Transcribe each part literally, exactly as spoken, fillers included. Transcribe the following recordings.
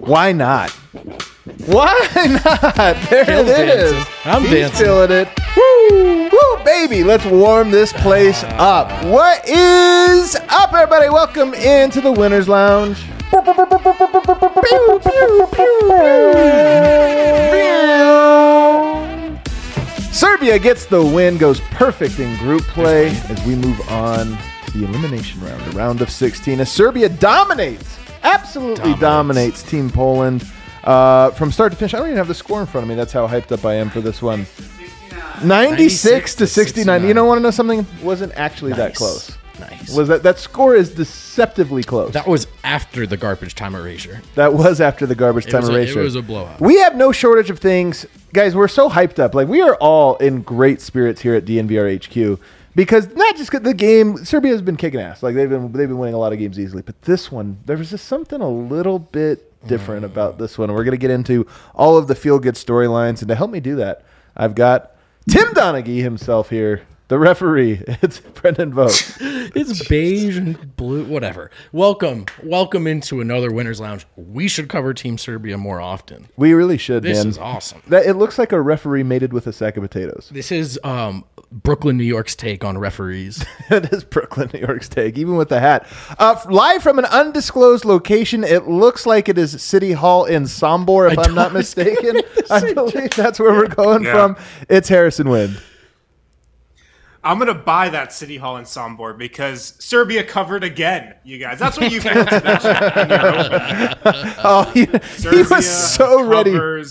Why not? Why not? There Kale's it is. dancing. I'm He's dancing. feeling it. Woo! Woo, baby. Let's warm this place up. What is up, everybody? Welcome into the Winners Lounge. Serbia gets the win, goes perfect in group play as we move on to the elimination round, the round of sixteen. As Serbia dominates, absolutely dominates, dominates Team Poland uh, from start to finish. I don't even have the score in front of me. That's how hyped up I am for this one. ninety-six to sixty-nine. You don't want to know something? Wasn't actually nice. That close. Nice. Was that that score is deceptively close. That was after the garbage time erasure. That was after the garbage time it erasure. A, it was a blowout. We have no shortage of things. Guys, we're so hyped up. Like, we are all in great spirits here at D N V R H Q because not just the game, Serbia has been kicking ass. Like, they've been they've been winning a lot of games easily. But this one, there was just something a little bit different mm. about this one. We're going to get into all of the feel-good storylines. And to help me do that, I've got Tim Donaghy himself here. The referee, it's Brendan Vogt. It's beige and blue, whatever. Welcome. Welcome into another Winners Lounge. We should cover Team Serbia more often. We really should, this man. This is awesome. That, it looks like a referee mated with a sack of potatoes. This is um, Brooklyn, New York's take on referees. It is Brooklyn, New York's take, even with the hat. Uh, live from an undisclosed location, it looks like it is City Hall in Sombor, if I I'm not mistaken. I believe that's where we're going yeah. from. It's Harrison Wind. I'm going to buy that City Hall in Sombor because Serbia covered again, you guys. That's what you failed to mention. Oh, he, he was so ready.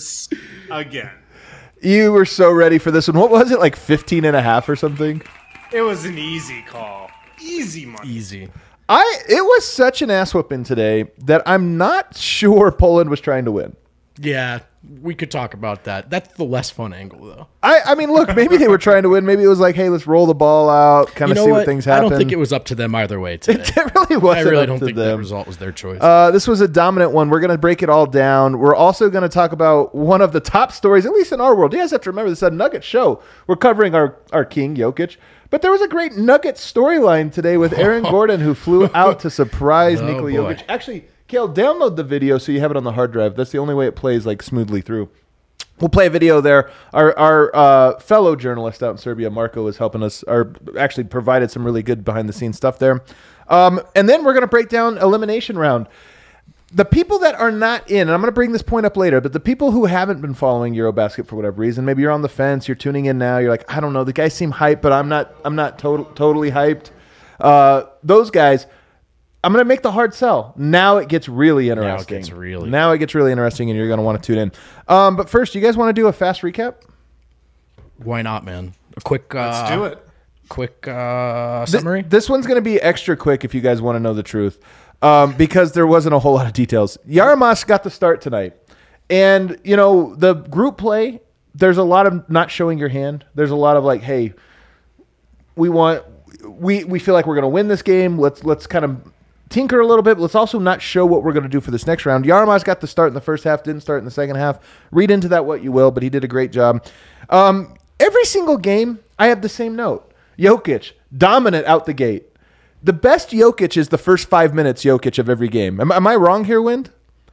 Again. You were so ready for this one. What was it, like fifteen and a half or something? It was an easy call. Easy money. Easy. I. It was such an ass whooping today that I'm not sure Poland was trying to win. Yeah, we could talk about that. That's the less fun angle, though. I, I mean, look, maybe they were trying to win. Maybe it was like, hey, let's roll the ball out, kind of you know see what? what things happen. I don't think it was up to them either way today. It really wasn't I really up don't to think them. that result was their choice. Uh, this was a dominant one. We're going to break it all down. We're also going to talk about one of the top stories, at least in our world. You guys have to remember this is a Nugget show. We're covering our, our king, Jokic. But there was a great Nugget storyline today with Aaron Gordon, who flew out to surprise oh, Nikola boy. Jokic. Actually, Kale, download the video so you have it on the hard drive. That's the only way it plays like smoothly through. We'll play a video there. Our our uh, fellow journalist out in Serbia, Marco, is helping us, or actually provided some really good behind-the-scenes stuff there. Um, and then we're going to break down elimination round. The people that are not in, and I'm going to bring this point up later, but the people who haven't been following Eurobasket for whatever reason, maybe you're on the fence, you're tuning in now, you're like, I don't know, the guys seem hyped, but I'm not I'm not to- totally hyped. Uh, those guys, I'm going to make the hard sell. Now it gets really interesting. Now it gets really Now it gets really interesting, and you're going to want to tune in. Um, but first, you guys want to do a fast recap? Why not, man? A quick uh, Let's do it. Quick uh, summary? Th- this one's going to be extra quick if you guys want to know the truth, um, because there wasn't a whole lot of details. Yaramas got the start tonight. And, you know, the group play, there's a lot of not showing your hand. There's a lot of like, hey, we want we we feel like we're going to win this game. Let's let's kind of tinker a little bit, but let's also not show what we're going to do for this next round. Yaramas got the start in the first half, didn't start in the second half. Read into that what you will, but he did a great job. Um, every single game, I have the same note. Jokic, dominant out the gate. The best Jokic is the first five minutes Jokic of every game. Am, am I wrong here, Wind?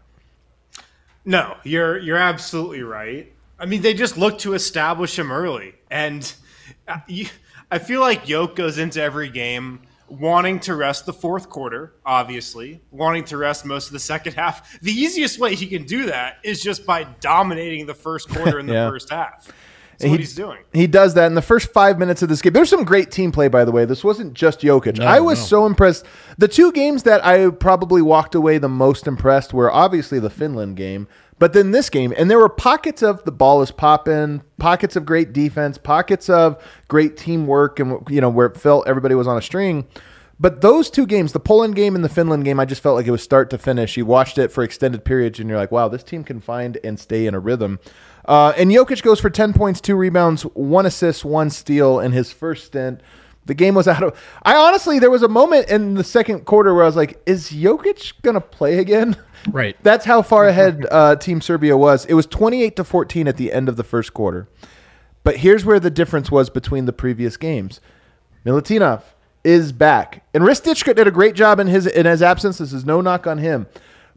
No, you're you're absolutely right. I mean, they just look to establish him early. And you, I feel like Jokic goes into every game wanting to rest the fourth quarter, obviously, wanting to rest most of the second half. The easiest way he can do that is just by dominating the first quarter in the yeah. first half. That's he, what he's doing. He does that in the first five minutes of this game. There's some great team play, by the way. This wasn't just Jokic. No, I was no. so impressed. The two games that I probably walked away the most impressed were obviously the Finland game, but then this game. And there were pockets of the ball is popping, pockets of great defense, pockets of great teamwork, and you know where it felt everybody was on a string. But those two games, the Poland game and the Finland game, I just felt like it was start to finish. You watched it for extended periods, and you're like, wow, this team can find and stay in a rhythm. Uh, and Jokic goes for ten points, two rebounds, one assist, one steal in his first stint. The game was out of – I honestly – there was a moment in the second quarter where I was like, is Jokic going to play again? Right. That's how far ahead uh, Team Serbia was. It was twenty-eight to fourteen at the end of the first quarter. But here's where the difference was between the previous games. Milutinov is back. And Ristić did a great job in his in his absence. This is no knock on him.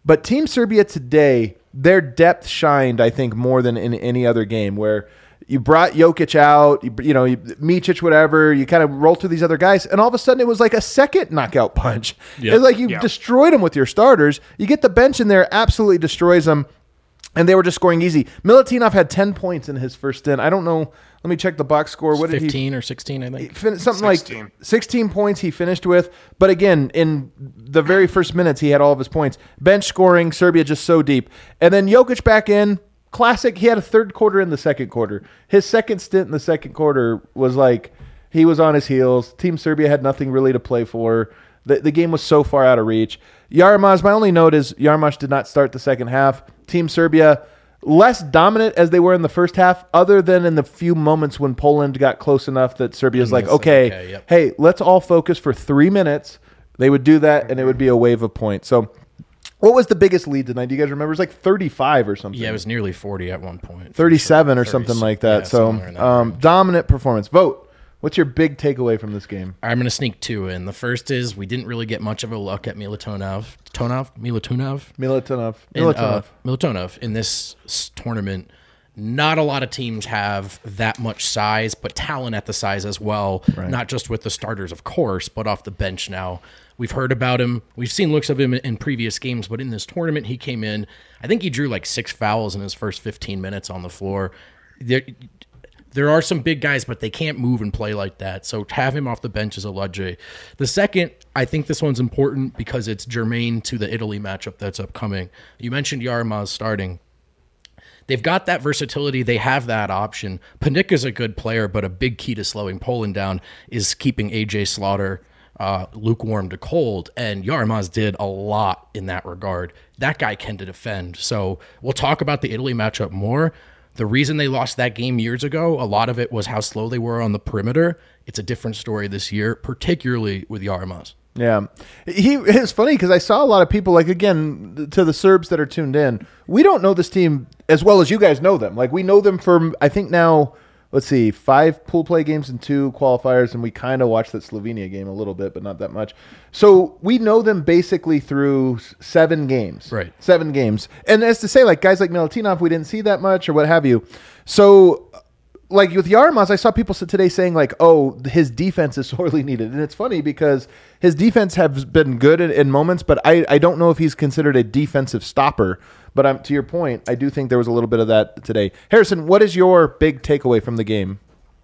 But Team Serbia today, their depth shined, I think, more than in any other game where you brought Jokic out, you, you know, you, Micic, whatever, you kind of roll through these other guys, and all of a sudden it was like a second knockout punch. Yep. It's like you Yep. destroyed them with your starters. You get the bench in there, absolutely destroys them, and they were just scoring easy. Milutinov had ten points in his first stint. I don't know. Let me check the box score. What did he? fifteen or sixteen, I think. Fin- something sixteen. like sixteen points he finished with. But again, in the very first minutes, he had all of his points. Bench scoring, Serbia just so deep. And then Jokic back in. Classic. He had a third quarter in the second quarter. His second stint in the second quarter was like he was on his heels. Team Serbia had nothing really to play for. The, the game was so far out of reach. Yaramaz, my only note is Yaramaz did not start the second half. Team Serbia, less dominant as they were in the first half, other than in the few moments when Poland got close enough that Serbia's like, Yes, okay, okay, yep. hey, let's all focus for three minutes. They would do that, and it would be a wave of points. So what was the biggest lead tonight? Do you guys remember? It was like thirty-five or something. Yeah, it was nearly forty at one point. thirty-seven For or sure. something thirty like that. yeah, so somewhere in that um, range. dominant performance. Vote. What's your big takeaway from this game? I'm going to sneak two in. The first is we didn't really get much of a look at Milutinov. Tonov? Milutinov? Militonov. in, Militonov. uh, Militonov in this s- tournament. Not a lot of teams have that much size, but talent at the size as well. Right. Not just with the starters, of course, but off the bench now. We've heard about him. We've seen looks of him in, in previous games, but in this tournament, he came in. I think he drew like six fouls in his first fifteen minutes on the floor. There, there are some big guys, but they can't move and play like that. So to have him off the bench is a luxury. The second, I think this one's important because it's germane to the Italy matchup that's upcoming. You mentioned Yaramaz starting. They've got that versatility. They have that option. Panika's a good player, but a big key to slowing Poland down is keeping A J Slaughter uh, lukewarm to cold, and Yaramaz did a lot in that regard. That guy can defend. So we'll talk about the Italy matchup more. The reason they lost that game years ago, a lot of it was how slow they were on the perimeter. It's a different story this year, particularly with Yaramaz. Yeah. He it's funny because I saw a lot of people, like, again, to the Serbs that are tuned in, we don't know this team as well as you guys know them. Like, we know them from, I think now, let's see, five pool play games and two qualifiers, and we kind of watched that Slovenia game a little bit, but not that much. So we know them basically through seven games. Right. Seven games. And as to say, like, guys like Milutinov, we didn't see that much or what have you. So, like, with Yaramaz, I saw people today saying, like, oh, his defense is sorely needed. And it's funny because his defense has been good in, in moments, but I, I don't know if he's considered a defensive stopper. But I'm, to your point, I do think there was a little bit of that today. Harrison, what is your big takeaway from the game?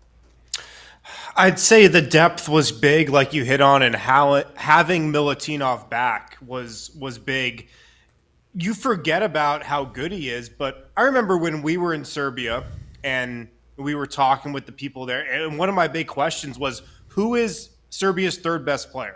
I'd say the depth was big, like you hit on, and how it, having Milutinov back was was big. You forget about how good he is, but I remember when we were in Serbia and we were talking with the people there, and one of my big questions was, who is Serbia's third best player?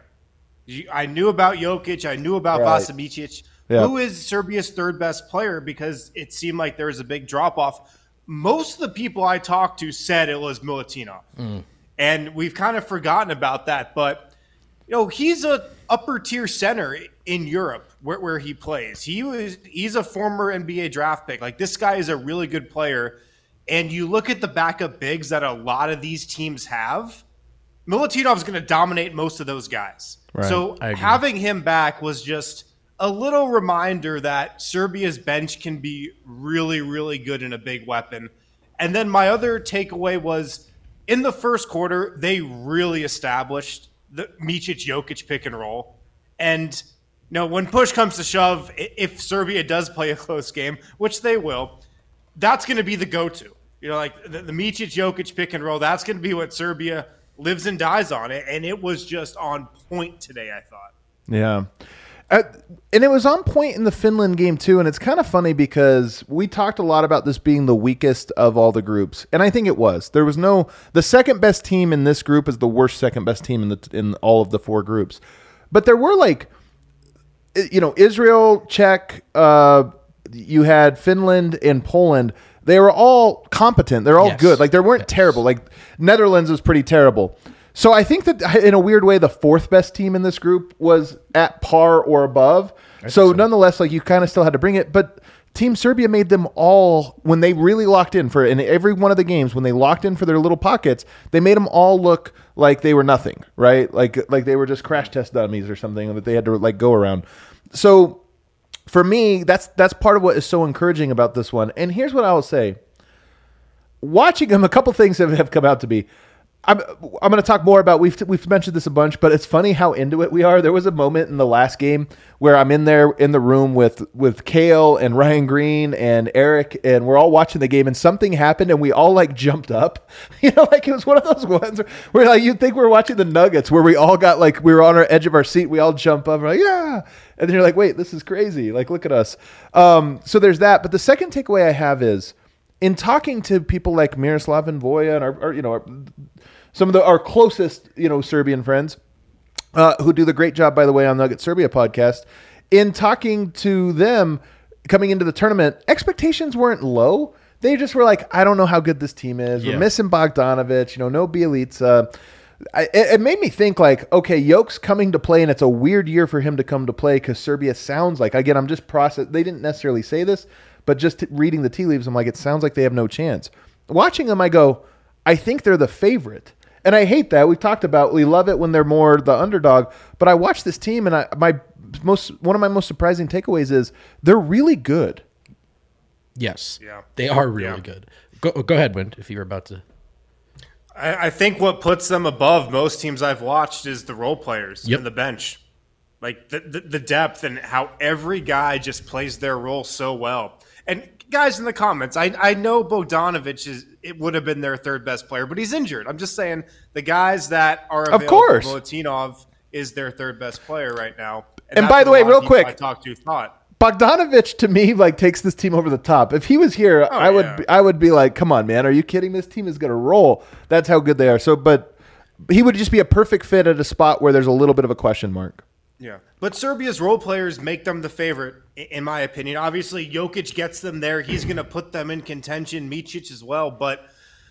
I knew about Jokic, I knew about Right. Vasa Micic. Yeah. Who is Serbia's third best player? Because it seemed like there was a big drop off. Most of the people I talked to said it was Milutinov. Mm. And we've kind of forgotten about that. But, you know, he's a upper tier center in Europe where, where he plays. He was he's a former N B A draft pick. Like, this guy is a really good player. And you look at the backup bigs that a lot of these teams have, Milutinov's going to dominate most of those guys. Right. So I agree. having him back was just a little reminder that Serbia's bench can be really, really good and a big weapon. And then my other takeaway was in the first quarter, they really established the Micic Jokic pick and roll. And you know, when push comes to shove, i- if Serbia does play a close game, which they will, that's going to be the go-to. You know, like the, the Micic Jokic pick and roll, that's going to be what Serbia lives and dies on. It. And it was just on point today, I thought. Yeah. Uh, and it was on point in the Finland game, too. And it's kind of funny because we talked a lot about this being the weakest of all the groups. And I think it was. There was no – the second best team in this group is the worst second best team in the in all of the four groups. But there were, like, you know, Israel, Czech, uh, you had Finland and Poland. They were all competent. They're all Yes. good. Like, they weren't Yes. terrible. Like, Netherlands was pretty terrible. So I think that in a weird way, the fourth best team in this group was at par or above. So, so. nonetheless, like, you kind of still had to bring it. But Team Serbia made them all, when they really locked in for in every one of the games, when they locked in for their little pockets, they made them all look like they were nothing, right? Like like they were just crash test dummies or something that they had to like go around. So for me, that's that's part of what is so encouraging about this one. And here's what I will say. Watching them, a couple things have, have come out to be. I'm, I'm going to talk more about, we've we've mentioned this a bunch, but it's funny how into it we are. There was a moment in the last game where I'm in there in the room with, with Kale and Ryan Green and Eric, and we're all watching the game, and something happened, and we all like jumped up. You know, like it was one of those ones where, where like you'd think we were watching the Nuggets, where we all got like, we were on our edge of our seat, we all jump up, we're like, yeah. And then you're like, wait, this is crazy. Like, look at us. Um, so there's that. But the second takeaway I have is, in talking to people like Miroslav and Voya and our, our you know, our, some of the, our closest, you know, Serbian friends, uh, who do the great job, by the way, on Nugget Serbia podcast, in talking to them coming into the tournament, expectations weren't low. They just were like, I don't know how good this team is. Yeah. We're missing Bogdanovic, you know, no Bielica. I, it, it made me think like, okay, Jokic coming to play, and it's a weird year for him to come to play because Serbia sounds like, again, I'm just process. They didn't necessarily say this, but just t- reading the tea leaves, I'm like, it sounds like they have no chance. Watching them, I go, I think they're the favorite. And I hate that. We've talked about, we love it when they're more the underdog, but I watch this team, and I, my most one of my most surprising takeaways is they're really good. Yes. Yeah. They are really Yeah. good. Go go ahead, Wind, if you were about to. I, I think what puts them above most teams I've watched is the role players Yep. and the bench. Like the, the, the depth and how every guy just plays their role so well. And guys in the comments, I I know Bogdanovic is it would have been their third best player, but he's injured. I'm just saying the guys that are available, Of course. Milutinov is their third best player right now. And that's by the what way, a lot real of people quick, I talked to thought. Bogdanovic to me like takes this team over the top. If he was here, Oh, I would yeah. be, I would be like, come on, man, are you kidding? This team is going to roll. That's how good they are. So, but he would just be a perfect fit at a spot where there's a little bit of a question mark. Yeah, but Serbia's role players make them the favorite, i- in my opinion. Obviously, Jokic gets them there. He's going to put them in contention, Micic as well. But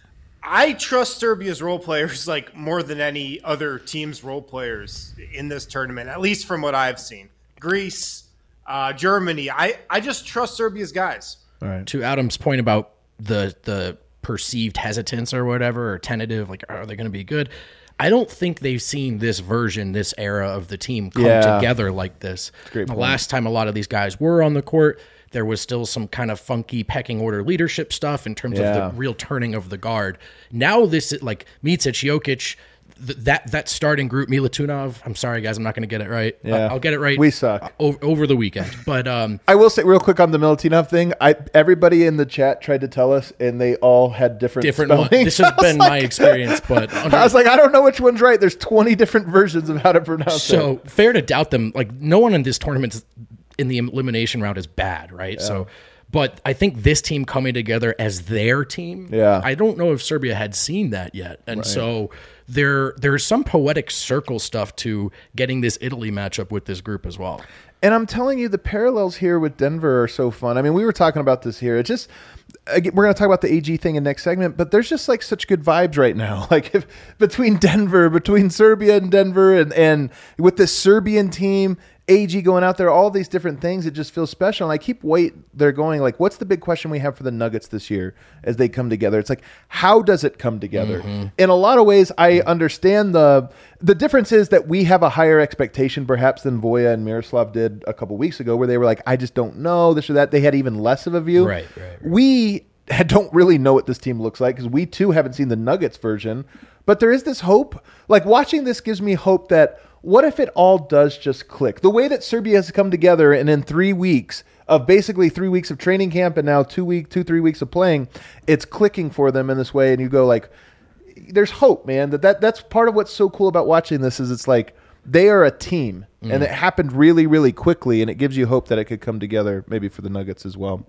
I trust Serbia's role players like more than any other team's role players in this tournament, at least from what I've seen. Greece, uh, Germany. I, I just trust Serbia's guys. All right. To Adam's point about the the perceived hesitance or whatever, or tentative, like, are they going to be good? I don't think they've seen this version, this era of the team come Yeah. together like this. great The point. last time a lot of these guys were on the court, there was still some kind of funky pecking order leadership stuff in terms Yeah. of the real turning of the guard. Now this is like Micic, Jokic, th- that that starting group, Milutinov. I'm sorry, guys, I'm not going to get it right. Yeah. Uh, I'll get it right. We suck. o- over the weekend, but um, I will say real quick on the Milutinov thing. I everybody in the chat tried to tell us, and they all had different different. One. spellings. This has I was been my like- experience, but under, I was like, I don't know which one's right. There's twenty different versions of how to pronounce it. so fair to doubt them. Like no one in this tournament is- in the elimination round is bad, right? So, but I think this team coming together as their team. Yeah. I don't know if Serbia had seen that yet, and so there there's some poetic circle stuff to getting this Italy matchup with this group as well. And I'm telling you, the parallels here with Denver are so fun. I mean, we were talking about this here. It just, again, we're going to talk about the A G thing in next segment, but there's just like such good vibes right now. Like if, between Denver, between Serbia and Denver, and, and with this Serbian team, A G going out there, all these different things, it just feels special. And I keep wait, they're going like, what's the big question we have for the Nuggets this year as they come together? It's like, how does it come together? Mm-hmm. In a lot of ways, I understand the the difference is that we have a higher expectation perhaps than Voya and Miroslav did a couple weeks ago, where they were like, I just don't know this or that. They had even less of a view. Right, right, right. We don't really know what this team looks like because we too haven't seen the Nuggets version. But there is this hope. Like watching this gives me hope that what if it all does just click? The way that Serbia has come together, and in three weeks of basically three weeks of training camp and now two week, two, three weeks of playing, it's clicking for them in this way. And you go like, there's hope, man. That, that that's part of what's so cool about watching this is it's like they are a team, Mm. and it happened really, really quickly, and it gives you hope that it could come together maybe for the Nuggets as well.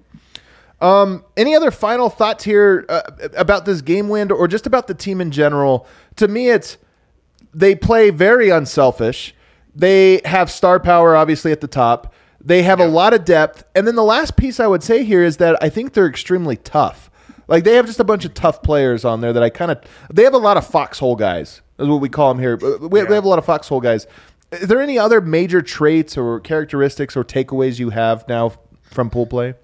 Um, any other final thoughts here uh, about this game win or just about the team in general? To me, it's they play very unselfish. They have star power, obviously, at the top. They have a lot of depth. And then the last piece I would say here is that I think they're extremely tough. Like, they have just a bunch of tough players on there that I kind of – they have a lot of foxhole guys, is what we call them here. We, Yeah. we have a lot of foxhole guys. Is there any other major traits or characteristics or takeaways you have now from pool play?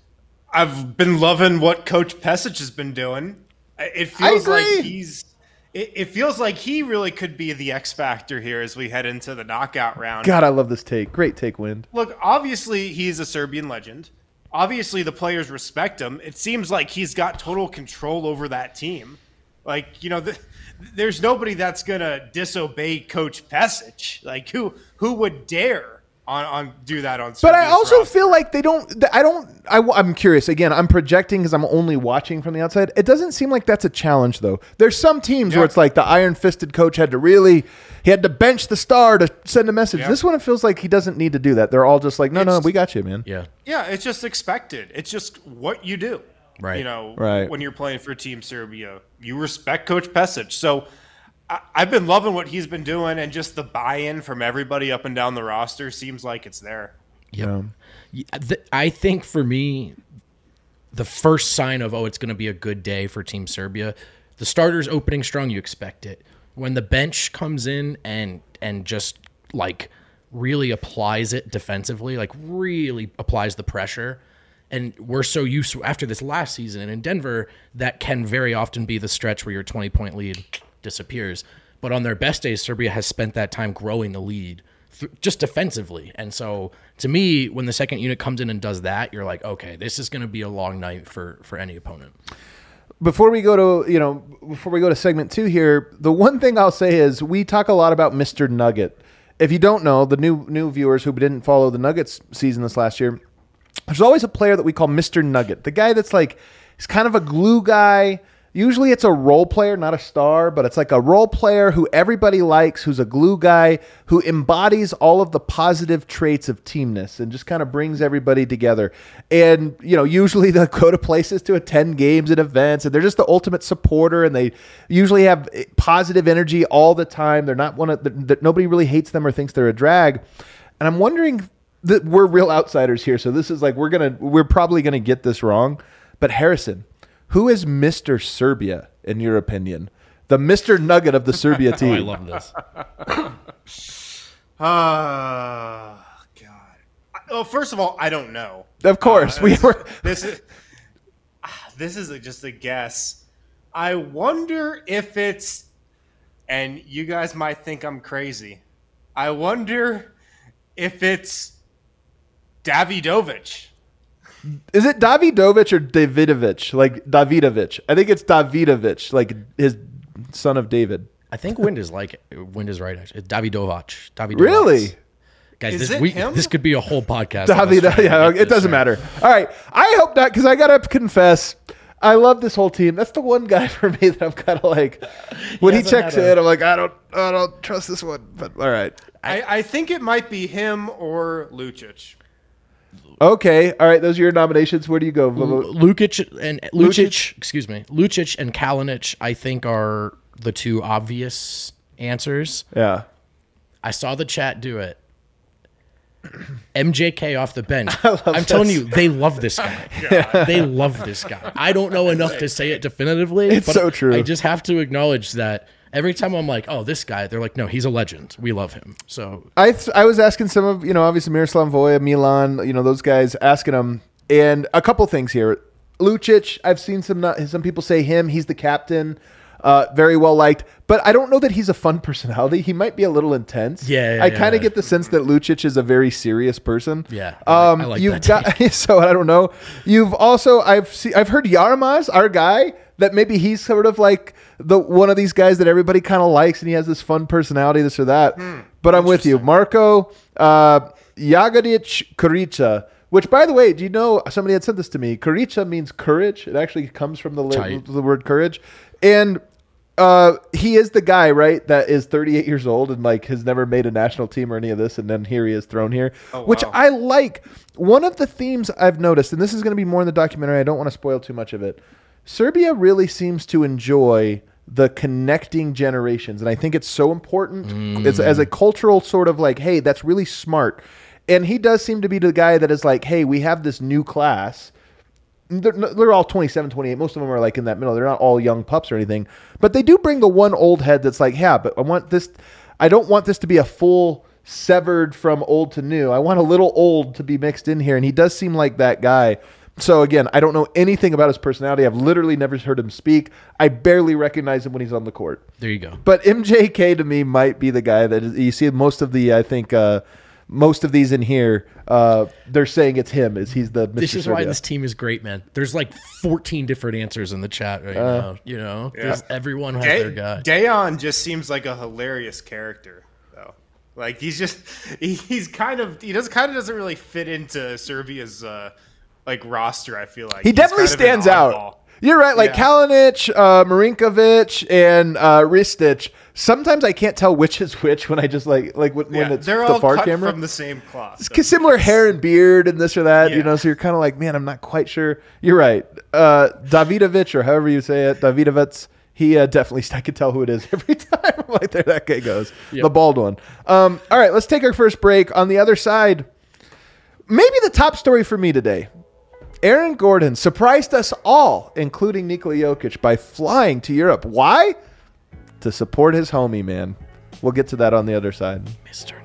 I've been loving what Coach Pesic has been doing. It feels agree. like he's it, it feels like he really could be the X factor here as we head into the knockout round. God, I love this take. Great take, Wind. Look, obviously he's a Serbian legend. Obviously the players respect him. It seems like he's got total control over that team. Like, you know, the, there's nobody that's going to disobey Coach Pesic. Like, who who would dare on, on do that on Serbia's But I also roster? feel like they don't, I don't, I, I'm curious. Again, I'm projecting because I'm only watching from the outside. It doesn't seem like that's a challenge, though. There's some teams Yeah. where it's like the iron-fisted coach had to really, he had to bench the star to send a message. Yeah. This one, it feels like he doesn't need to do that. They're all just like, no, no, It's- we got you, man. Yeah. Yeah, it's just expected. It's just what you do. Right. You know, Right. when you're playing for Team Serbia, you respect Coach Pesic. So I, I've been loving what he's been doing, and just the buy-in from everybody up and down the roster seems like it's there. Yep. Yeah, th- I think for me, the first sign of, oh, it's going to be a good day for Team Serbia, the starters opening strong, you expect it. When the bench comes in and and just like really applies it defensively, like really applies the pressure, and we're so used to, after this last season and in Denver, that can very often be the stretch where your twenty-point lead disappears. But on their best days, Serbia has spent that time growing the lead th- just defensively. And so to me, when the second unit comes in and does that, you're like, okay, this is going to be a long night for, for any opponent. Before we go to, you know, before we go to segment two here, the one thing I'll say is we talk a lot about Mister Nugget. If you don't know, the new new viewers who didn't follow the Nuggets season this last year, there's always a player that we call Mister Nugget. The guy that's like, he's kind of a glue guy. Usually it's a role player, not a star, but it's like a role player who everybody likes, who's a glue guy, who embodies all of the positive traits of teamness and just kind of brings everybody together. And, you know, usually they'll go to places to attend games and events, and they're just the ultimate supporter, and they usually have positive energy all the time. They're not one of the, nobody really hates them or thinks they're a drag. And I'm wondering that we're real outsiders here. So this is like, we're going to, we're probably going to get this wrong, but Harrison, who is Mister Serbia, in your opinion? The Mister Nugget of the Serbia Oh, team. I love this. Oh, God. Well, first of all, I don't know. Of course. Uh, we were. This is, this is a, just a guess. I wonder if it's, and you guys might think I'm crazy, I wonder if it's Davidovic. Is it Davidovic or Davidovic? Like Davidovic. I think it's Davidovic, like his son of David. I think Wind is like, Wind is right. Actually. It's Davidovac. Davidovac. Really? Guys, Is this, it we, him? this could be a whole podcast. of us David, trying to yeah, get it this doesn't right. matter. All right. I hope not, because I got to confess, I love this whole team. That's the one guy for me that I'm kind of like, when he, hasn't checks had a- in, I'm like, I don't, I don't trust this one. But all right. I, I think it might be him or Lucic. Okay. All right. Those are your nominations. Where do you go? Lukic and Lucic, Lucic? excuse me, Lucic and Kalinic, I think are the two obvious answers. Yeah. I saw the chat do it. M J K off the bench. love I'm telling this. you, they love this guy. They love this guy. I don't know enough to say it definitively. It's but so true. I just have to acknowledge that every time I'm like, oh, this guy, they're like, no, he's a legend. We love him. So I th- I was asking some of, you know, obviously Miroslav Voja, Milan, you know, those guys, asking them, and a couple things here. Lucic, I've seen some not, some people say him. He's the captain, uh, very well liked, but I don't know that he's a fun personality. He might be a little intense. Yeah, yeah, I kind of yeah. get the sense that Lucic is a very serious person. Yeah, I like- um, I like you've that got so I don't know. You've also I've seen I've heard Yarmaz, our guy, that maybe he's sort of like the one of these guys that everybody kind of likes, and he has this fun personality, this or that. But I'm with you, Marco uh, Jagodic Kurica. Which, by the way, do you know, somebody had said this to me, Kurica means courage. It actually comes from the, Tight. the word courage. And uh, he is the guy, right, that is thirty-eight years old and like has never made a national team or any of this, and then here he is thrown here, which wow. I like. One of the themes I've noticed, and this is going to be more in the documentary, I don't want to spoil too much of it, Serbia really seems to enjoy the connecting generations, and I think it's so important Mm. it's, as a cultural sort of like, hey, that's really smart. And he does seem to be the guy that is like, hey, we have this new class. They're, they're all twenty-seven, twenty-eight. Most of them are like in that middle. They're not all young pups or anything. But they do bring the one old head that's like, yeah, but I want this. I don't want this to be a full severed from old to new. I want a little old to be mixed in here. And he does seem like that guy. So again, I don't know anything about his personality. I've literally never heard him speak. I barely recognize him when he's on the court. There you go. But M J K to me might be the guy that is, you see most of the, I think, uh, most of these in here, uh, they're saying it's him. Is he's the Mister This is Serbia. why this team is great, man. There's like fourteen different answers in the chat right Uh, now. You know, Yeah. There's- everyone has Day- their guy. Dayon just seems like a hilarious character, though. Like he's just he, he's kind of he does kind of doesn't really fit into Serbia's uh, like roster. I feel like He He's definitely kind of an stands out. oddball. You're right. Like Yeah. Kalinic, uh, Marinkovic, and uh, Ristic. Sometimes I can't tell which is which when I just like like when, when Yeah, it's they're the all far cut camera. from the same cloth. so- It's similar hair and beard and this or that, you Yeah. know. So you're kind of like, man, I'm not quite sure. You're right. Uh, Davidovic, or however you say it, Davidovic. He uh, definitely, I could tell who it is every time. I'm like, there that guy goes, Yep. the bald one. Um, all right, let's take our first break. On the other side, maybe the top story for me today. Aaron Gordon surprised us all, including Nikola Jokic, by flying to Europe. Why? To support his homie, man. We'll get to that on the other side. Mister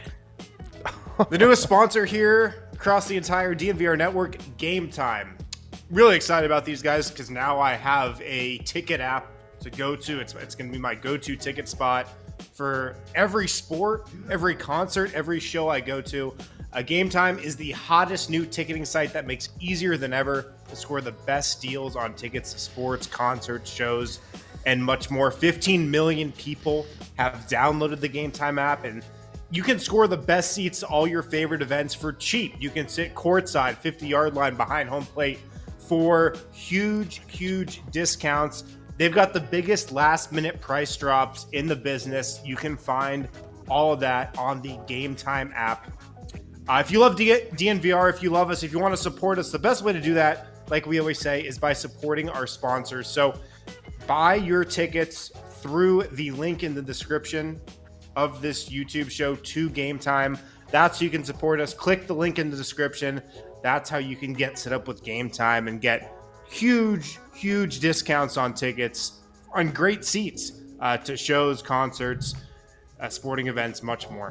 Nugget. The newest sponsor here across the entire D N V R network, Game Time. Really excited about these guys because now I have a ticket app to go to. It's, it's going to be my go-to ticket spot for every sport, every concert, every show I go to. Uh, Game Time is the hottest new ticketing site that makes easier than ever to score the best deals on tickets to sports, concerts, shows, and much more. fifteen million people have downloaded the Game Time app, and you can score the best seats to all your favorite events for cheap. You can sit courtside, fifty-yard line behind home plate for huge, huge discounts. They've got the biggest last-minute price drops in the business. You can find all of that on the Game Time app. Uh, if you love D- DNVR, if you love us, if you want to support us, the best way to do that, like we always say, is by supporting our sponsors. So buy your tickets through the link in the description of this YouTube show to Game Time. That's how you can support us. Click the link in the description. That's how you can get set up with Game Time and get huge, huge discounts on tickets, on great seats uh, to shows, concerts, uh, sporting events, much more.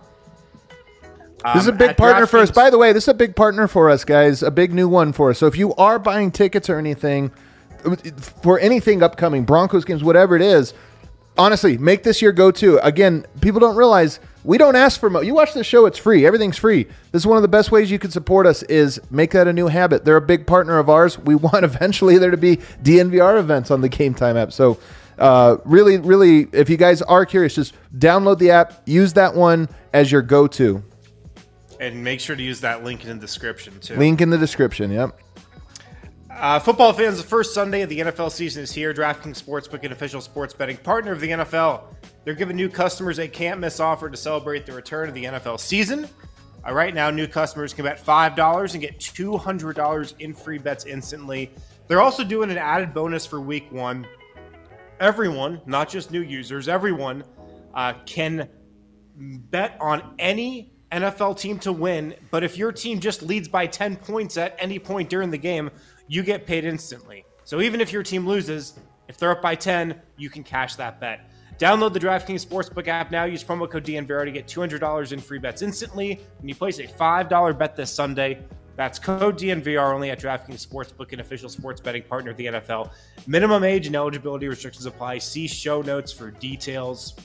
Um, This is a big at partner for us. DraftKings- By the way, this is a big partner for us, guys. A big new one for us. So if you are buying tickets or anything for anything upcoming, Broncos games, whatever it is, honestly, make this your go-to. Again, people don't realize we don't ask for mo- you watch the show, it's free. Everything's free. This is one of the best ways you can support us is make that a new habit. They're a big partner of ours. We want eventually there to be D N V R events on the Game Time app. So uh, really, really, if you guys are curious, just download the app, use that one as your go-to. And make sure to use that link in the description, too. Link in the description, yep. Uh, football fans, the first Sunday of the N F L season is here. DraftKings Sportsbook, an official sports betting partner of the N F L. They're giving new customers a can't-miss offer to celebrate the return of the N F L season. Uh, right now, new customers can bet five dollars and get two hundred dollars in free bets instantly. They're also doing an added bonus for week one. Everyone, not just new users, everyone uh, can bet on any N F L team to win, but if your team just leads by ten points at any point during the game, you get paid instantly. So even if your team loses, if they're up by ten, you can cash that bet. Download the DraftKings Sportsbook app now. Use promo code D N V R to get two hundred dollars in free bets instantly when you place a five dollars bet this Sunday. That's code D N V R only at DraftKings Sportsbook, an official sports betting partner of the N F L. Minimum age and eligibility restrictions apply. See show notes for details.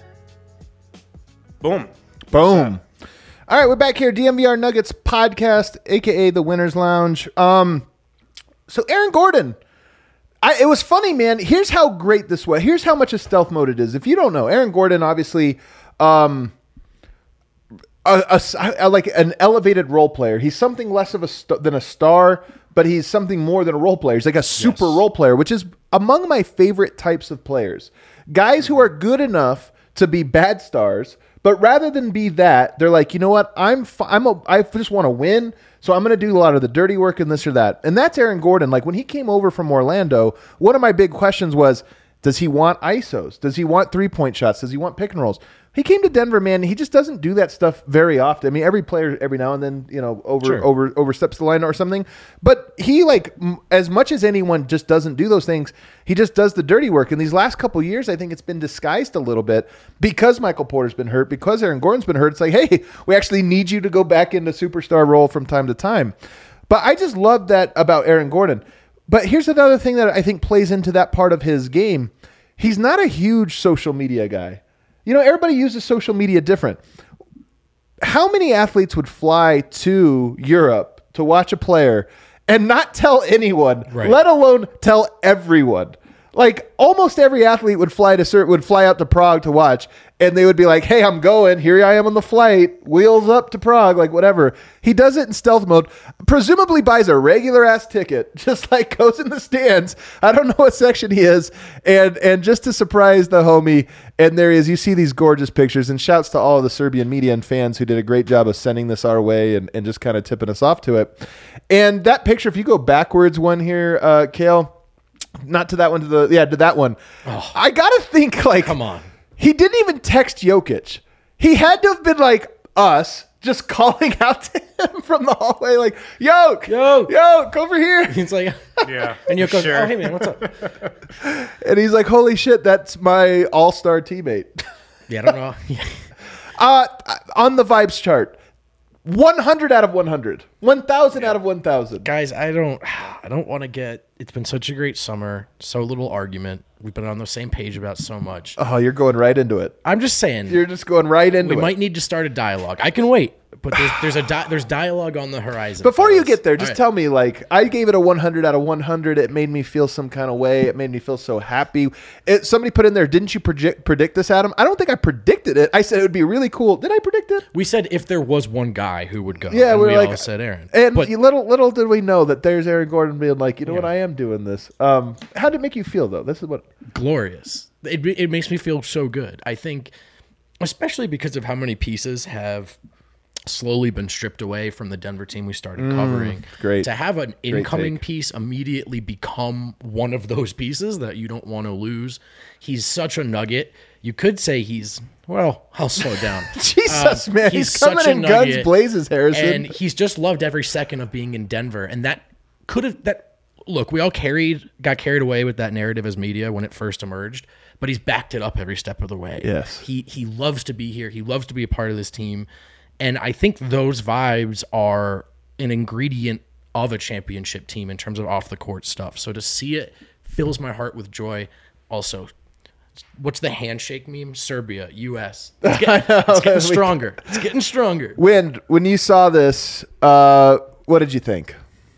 Boom. Boom. All right, we're back here, D N V R Nuggets podcast, aka the Winners Lounge. Um, so Aaron Gordon, I, it was funny, man. Here's how great this was. Here's how much a stealth mode it is. If you don't know, Aaron Gordon, obviously, um, a, a, a- like an elevated role player. He's something less of a st- than a star, but he's something more than a role player. He's like a super Yes. role player, which is among my favorite types of players. Guys who are good enough to be bad stars, but rather than be that, they're like, you know what? I'm fi- I'm a, I just want to win, so I'm going to do a lot of the dirty work and this or that. And that's Aaron Gordon. Like when he came over from Orlando, one of my big questions was, does he want I S Os? Does he want three-point shots? Does he want pick and rolls? He came to Denver, man. He just doesn't do that stuff very often. I mean, every player every now and then, you know, over Sure. over oversteps the line or something. But he, like, m- as much as anyone just doesn't do those things, he just does the dirty work. And these last couple years, I think it's been disguised a little bit because Michael Porter's been hurt, because Aaron Gordon's been hurt. It's like, hey, we actually need you to go back into superstar role from time to time. But I just love that about Aaron Gordon. But here's another thing that I think plays into that part of his game. He's not a huge social media guy. You know, everybody uses social media different. How many athletes would fly to Europe to watch a player and not tell anyone, right. let alone tell everyone? Like almost every athlete would fly to would fly out to Prague to watch, and they would be like, "Hey, I'm going. Here I am on the flight. Wheels up to Prague." Like whatever. He does it in stealth mode. Presumably buys a regular ass ticket, just like goes in the stands. I don't know what section he is, and and just to surprise the homie. And there he is. You see these gorgeous pictures. And shouts to all of the Serbian media and fans who did a great job of sending this our way and and just kind of tipping us off to it. And that picture, if you go backwards one here, uh, Kale. Not to that one, to the yeah, to that one. Oh, I gotta think like, come on. He didn't even text Jokic. He had to have been like us, just calling out to him from the hallway, like, "Yoke, Yoke, Yoke, over here." He's like, yeah, and Yoke goes, sure. "Oh, hey man, what's up?" And he's like, "Holy shit, that's my all-star teammate." Yeah, I don't know. uh, on the vibes chart. one hundred out of one hundred. one thousand yeah. out of one thousand. Guys, I don't I don't want to get it's been such a great summer, so little argument. We've been on the same page about so much. Oh, you're going right into it. I'm just saying. You're just going right into we it. We might need to start a dialogue. I can wait, but there's there's a di- there's dialogue on the horizon. Before fellas. you get there, just right. tell me, like, I gave it a one hundred out of one hundred. It made me feel some kind of way. It made me feel so happy. It, somebody put in there, didn't you predict, predict this, Adam? I don't think I predicted it. I said it would be really cool. Did I predict it? We said if there was one guy who would go. Yeah, and we were we like, all said Aaron. And but, little little did we know that there's Aaron Gordon being like, you know yeah. what, I am doing this. Um, how did it make you feel, though? This is what... Glorious. It, it makes me feel so good. I think, especially because of how many pieces have slowly been stripped away from the Denver team we started Mm, covering. great. To have an Great incoming take. piece immediately become one of those pieces that you don't want to lose. He's such a nugget. You could say he's, well, I'll slow down. Jesus, Um, man. He's, he's coming such a in guns nugget, blazes, Harrison. and he's just loved every second of being in Denver. And that could have, that, look, we all carried, got carried away with that narrative as media when it first emerged, but he's backed it up every step of the way. Yes. He, he loves to be here. He loves to be a part of this team. And I think those vibes are an ingredient of a championship team in terms of off the court stuff. So to see it fills my heart with joy. Also, what's the handshake meme? Serbia, U S. It's getting, it's getting stronger. It's getting stronger. Wind, when you saw this, uh, what did you think?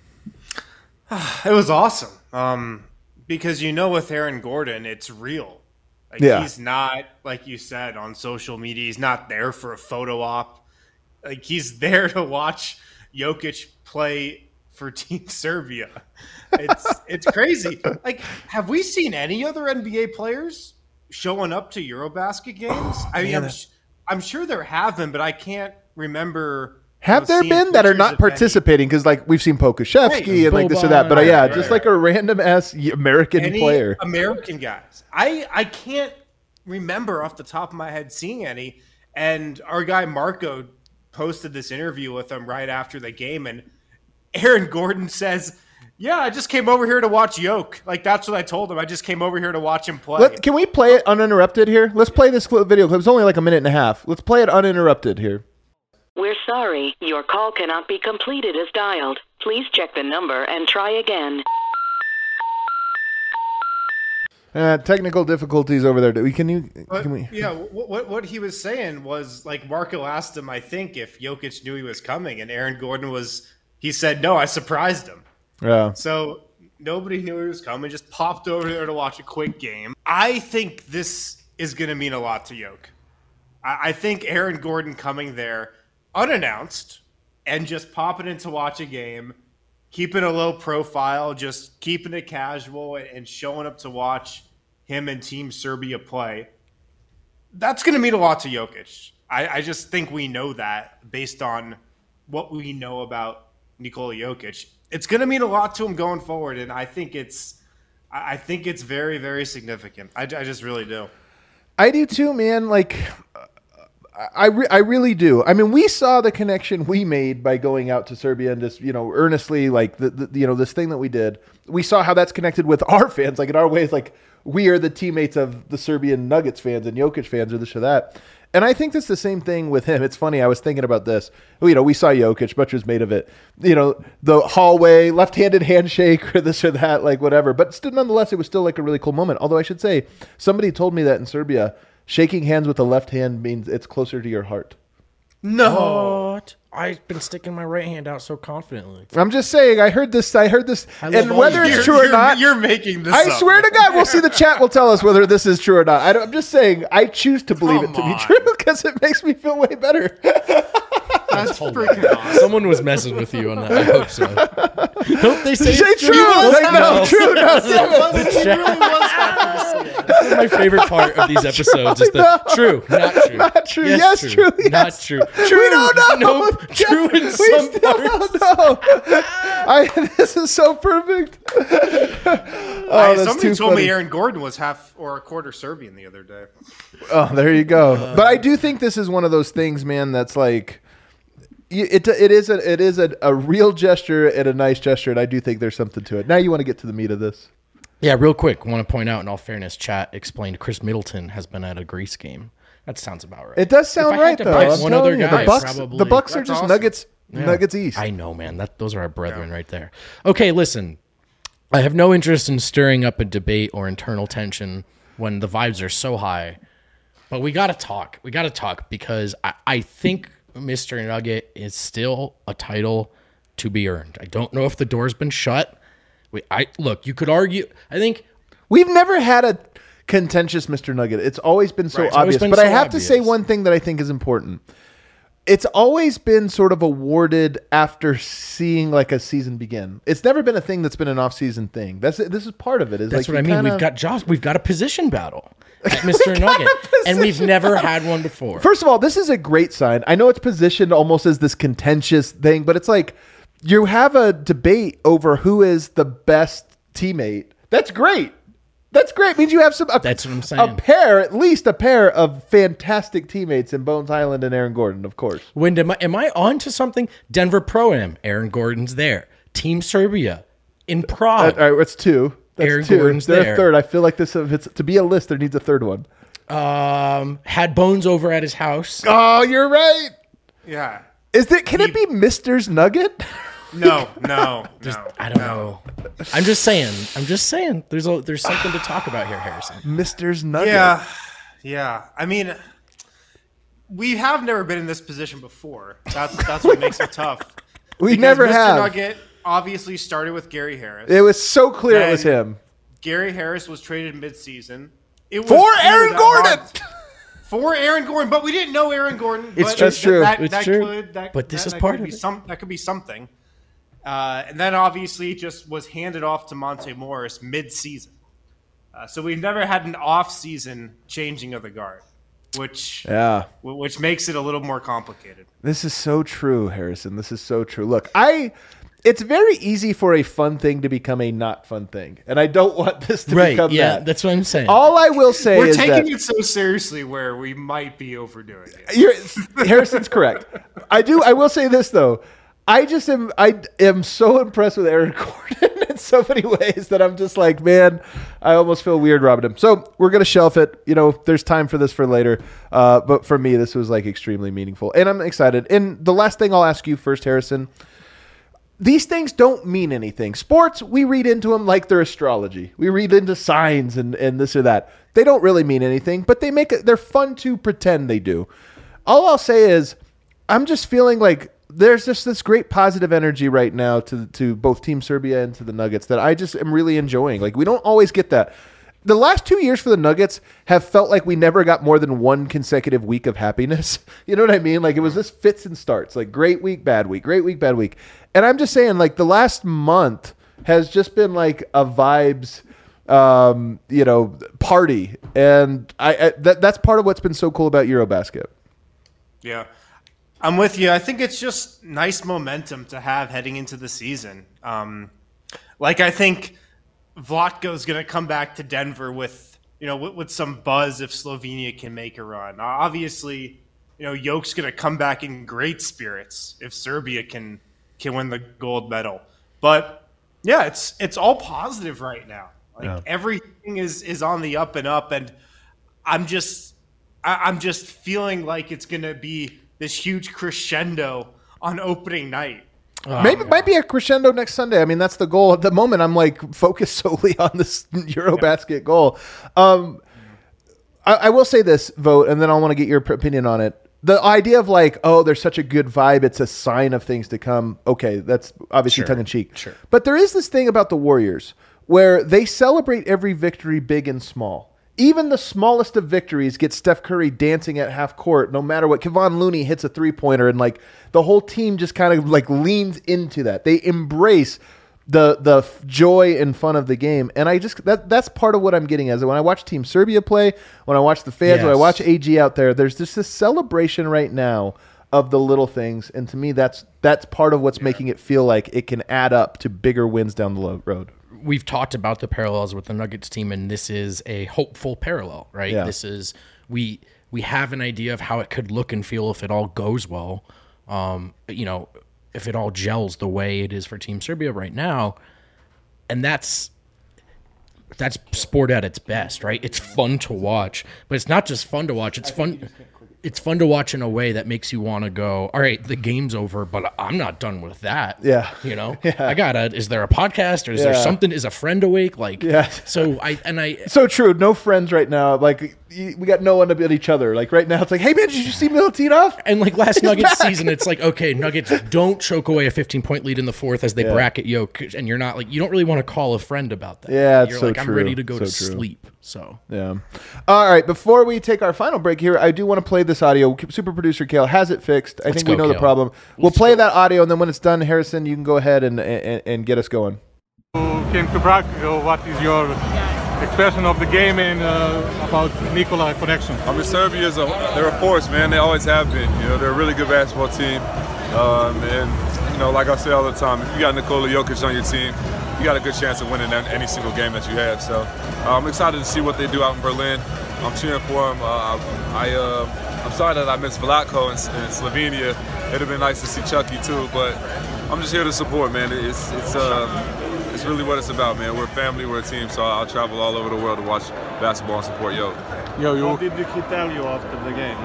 It was awesome. Um, because you know with Aaron Gordon, it's real. Like Yeah. he's not, like you said, on social media. He's not there for a photo op. Like he's there to watch Jokic play for Team Serbia. It's it's crazy. Like, have we seen any other N B A players showing up to Eurobasket games? I mean, Man, I'm, I'm sure there have been, but I can't remember. Have you know, there seeing been that are pictures not of any- participating? Because like we've seen Pokusevsky Right. and like this or that, but uh, Boban, yeah, right, just right. like a random ass American any player. American guys. I I can't remember off the top of my head seeing any. And our guy Marco posted this interview with him right after the game, and Aaron Gordon says, "Yeah, I just came over here to watch Yoke. Like that's what I told him. I just came over here to watch him play." Let, can we play it uninterrupted here? Let's play this clip, video clip. It's only like a minute and a half. Let's play it uninterrupted here. We're sorry, your call cannot be completed as dialed. Please check the number and try again. Uh, technical difficulties over there. Do we, can you? But, Can we? yeah, what, what what he was saying was like Marco asked him, I think, if Jokic knew he was coming, and Aaron Gordon was. He said, "No, I surprised him." Yeah. So nobody knew he was coming. Just popped over there to watch a quick game. I think this is going to mean a lot to Yoke. I, I think Aaron Gordon coming there unannounced and just popping in to watch a game, keeping a low profile, just keeping it casual and showing up to watch him and Team Serbia play. That's going to mean a lot to Jokic. I, I just think we know that based on what we know about Nikola Jokic. It's going to mean a lot to him going forward, and I think it's, I think it's very, very significant. I, I just really do. I do too, man. Like, I, re- I really do. I mean, we saw the connection we made by going out to Serbia and just, you know, earnestly, like, the, the you know, this thing that we did. We saw how that's connected with our fans. Like, in our ways, like, we are the teammates of the Serbian Nuggets fans and Jokic fans or this or that. And I think that's the same thing with him. It's funny. I was thinking about this. You know, we saw Jokic, much was made of it. You know, the hallway, left-handed handshake or this or that, like whatever. But still, nonetheless, it was still like a really cool moment. Although I should say, somebody told me that in Serbia, shaking hands with the left hand means it's closer to your heart. No. What? I've been sticking my right hand out so confidently. I'm just saying, I heard this, I heard this, I love and all whether you. it's You're- true or you're- not, You're making this I up. swear to God, we'll see. The chat will tell us whether this is true or not. I don't, I'm just saying, I choose to believe Come it to be on. true because it makes me feel way better. That's freaking awesome. Someone was messing with you on that. I hope so. Hope they say Say it's true. Like, no, true. No, damn it. He really was happy to see it. That's my favorite part of these episodes is the No. true, not true. Not true. Yes, true. Yes. Not true. True. We don't know. Nope. True in We some still parts. don't know. I, this is so perfect. Oh, I- that's somebody too told funny. me Aaron Gordon was half or a quarter Serbian the other day. Oh, there you go. But I do think this is one of those things, man, that's like y- it it is a it is a, a real gesture and a nice gesture, and I do think there's something to it. Now you want to get to the meat of this. Yeah, real quick, want to point out in all fairness, chat explained Chris Middleton has been at a Greece game. That sounds about right. It does sound If I had right to though. pick I'm one telling other you, guy, the Bucks probably- the Bucks are That's just awesome. Nuggets Yeah. Nuggets East. I know, man. That those are our brethren right there. Okay, listen. I have no interest in stirring up a debate or internal tension when the vibes are so high. But we got to talk. We got to talk because I, I think Mister Nugget is still a title to be earned. I don't know if the door's been shut. We, I look. You could argue. I think We've never had a contentious Mister Nugget. It's always been so Right. It's always obvious. been But I so have to say obvious. one thing that I think is important. It's always been sort of awarded after seeing like a season begin. It's never been a thing that's been an off-season thing. That's this is part of it. Is that's like what I you mean. kinda- We've got Josh. We've got a position battle at Mister Nugget, and we've never had one before. First of all, this is a great sign. I know it's positioned almost as this contentious thing, but it's like you have a debate over who is the best teammate. That's great. That's great. It means you have some. A, That's what I'm A saying. pair, at least a pair of fantastic teammates in Bones Highland and Aaron Gordon, of course. When am I, am I on to something? Denver Pro-Am, Aaron Gordon's there. Team Serbia in All Prague. right, that's two. That's Aaron two. Gordon's They're there. a third. I feel like this. If it's to be a list, there needs a third one. Um, had Bones over at his house. Oh, you're right. Yeah. Is it? Can it be Mister's Nugget? No, no, no. I don't know. I'm just saying. I'm just saying. There's a there's something to talk about here, Harrison. Mister's Nugget. Yeah, yeah. I mean, we have never been in this position before. That's that's what makes it tough. We Because never Mister have. Nugget obviously started with Gary Harris. It was so clear it was Then him. Gary Harris was traded midseason. It was For clear Aaron that Gordon! Hart- For Aaron Gordon, but we didn't know Aaron Gordon. It's but true. That's true. That, It's that true. Could, that, But this that, is that part could of be it. Some, that could be something. Uh, and then obviously just was handed off to Monte Morris mid-season. Uh, so we've never had an off-season changing of the guard, which Yeah. wh- which makes it a little more complicated. This is so true, Harrison. This is so true. Look, I it's very easy for a fun thing to become a not fun thing. And I don't want this to Right? become Yeah, that. that's what I'm saying. All I will say We're is taking that it so seriously where we might be overdoing it. You're, Harrison's correct. I do. I will say this though. I just am. I am so impressed with Aaron Gordon in so many ways that I'm just like, man, I almost feel weird robbing him. So we're gonna shelf it. You know, there's time for this for later. Uh, but for me, this was like extremely meaningful, and I'm excited. And the last thing I'll ask you first, Harrison. These things don't mean anything. Sports, we read into them like they're astrology. We read into signs and, and this or that. They don't really mean anything, but they make it. They're fun to pretend they do. All I'll say is, I'm just feeling like there's just this great positive energy right now to to both Team Serbia and to the Nuggets that I just am really enjoying. Like we don't always get that. The last two years for the Nuggets have felt like we never got more than one consecutive week of happiness. You know what I mean? Like it was just fits and starts, like great week, bad week, great week, bad week. And I'm just saying, like the last month has just been like a vibes, um, you know, party. And I, I that that's part of what's been so cool about Eurobasket. Yeah. I'm with you. I think it's just nice momentum to have heading into the season. Um, like I think Vlatko's going to come back to Denver with, you know, with, with some buzz if Slovenia can make a run. Uh, obviously, you know, Jokic going to come back in great spirits if Serbia can can win the gold medal. But yeah, it's it's all positive right now. Like Yeah. everything is is on the up and up, and I'm just I, I'm just feeling like it's going to be this huge crescendo on opening night. Oh, Maybe it might be a crescendo next Sunday. I mean, that's the goal. At the moment, I'm like focused solely on this Eurobasket yeah. goal. Um, I, I will say this, Vote, and then I want to get your opinion on it. The idea of like, oh, there's such a good vibe, it's a sign of things to come. Okay, that's obviously sure. tongue in cheek. Sure. But there is this thing about the Warriors where they celebrate every victory big and small. Even the smallest of victories get Steph Curry dancing at half court, no matter what. Kevon Looney hits a three-pointer, and like the whole team just kind of like leans into that. They embrace the the joy and fun of the game, and I just that that's part of what I'm getting as when I watch Team Serbia play, when I watch the fans, yes. when I watch A G out there. There's just this celebration right now of the little things, and to me, that's that's part of what's yeah. making it feel like it can add up to bigger wins down the road. We've talked about the parallels with the Nuggets team, and this is a hopeful parallel, right? Yeah. This is we we have an idea of how it could look and feel if it all goes well. Um, you know, if it all gels the way it is for Team Serbia right now, and that's that's sport at its best, right? It's fun to watch, but it's not just fun to watch. It's fun. It's fun to watch in a way that makes you want to go, all right, the game's over, but I'm not done with that. Yeah. You know, yeah. I gotta, is there a podcast or is yeah. there something? Is a friend awake? Like, yeah. so I, and I, so true. No friends right now. Like we got no one to be at each other. Like right now it's like, hey man, did you see Milutinov? And like last Nuggets season, it's like, okay, Nuggets don't choke away a fifteen point lead in the fourth as they yeah. bracket Jokic. And you're not like, you don't really want to call a friend about that. Yeah. It's you're so like, true. I'm ready to go so to true. sleep. So, yeah. All right. Before we take our final break here, I do want to play this audio. Super producer Kale has it fixed. I Let's think go, we know Kale. the problem. We'll Let's play go. that audio, and then when it's done, Harrison, you can go ahead and and, and get us going. You came to Prague. Uh, what is your expression of the game and uh, about Nikola connection? I mean, Serbia is a they're a force, man. They always have been. You know, they're a really good basketball team. Um, and you know, like I say all the time, if you got Nikola Jokic on your team, you got a good chance of winning any single game that you have. So uh, I'm excited to see what they do out in Berlin. I'm cheering for them. Uh, I, uh, I'm sorry that I missed Vlatko in, in Slovenia. It'd have been nice to see Chucky too, but I'm just here to support, man. It's it's uh, it's really what it's about, man. We're a family, we're a team, so I'll travel all over the world to watch basketball and support Yo. Yo, you. What did he tell you after the game?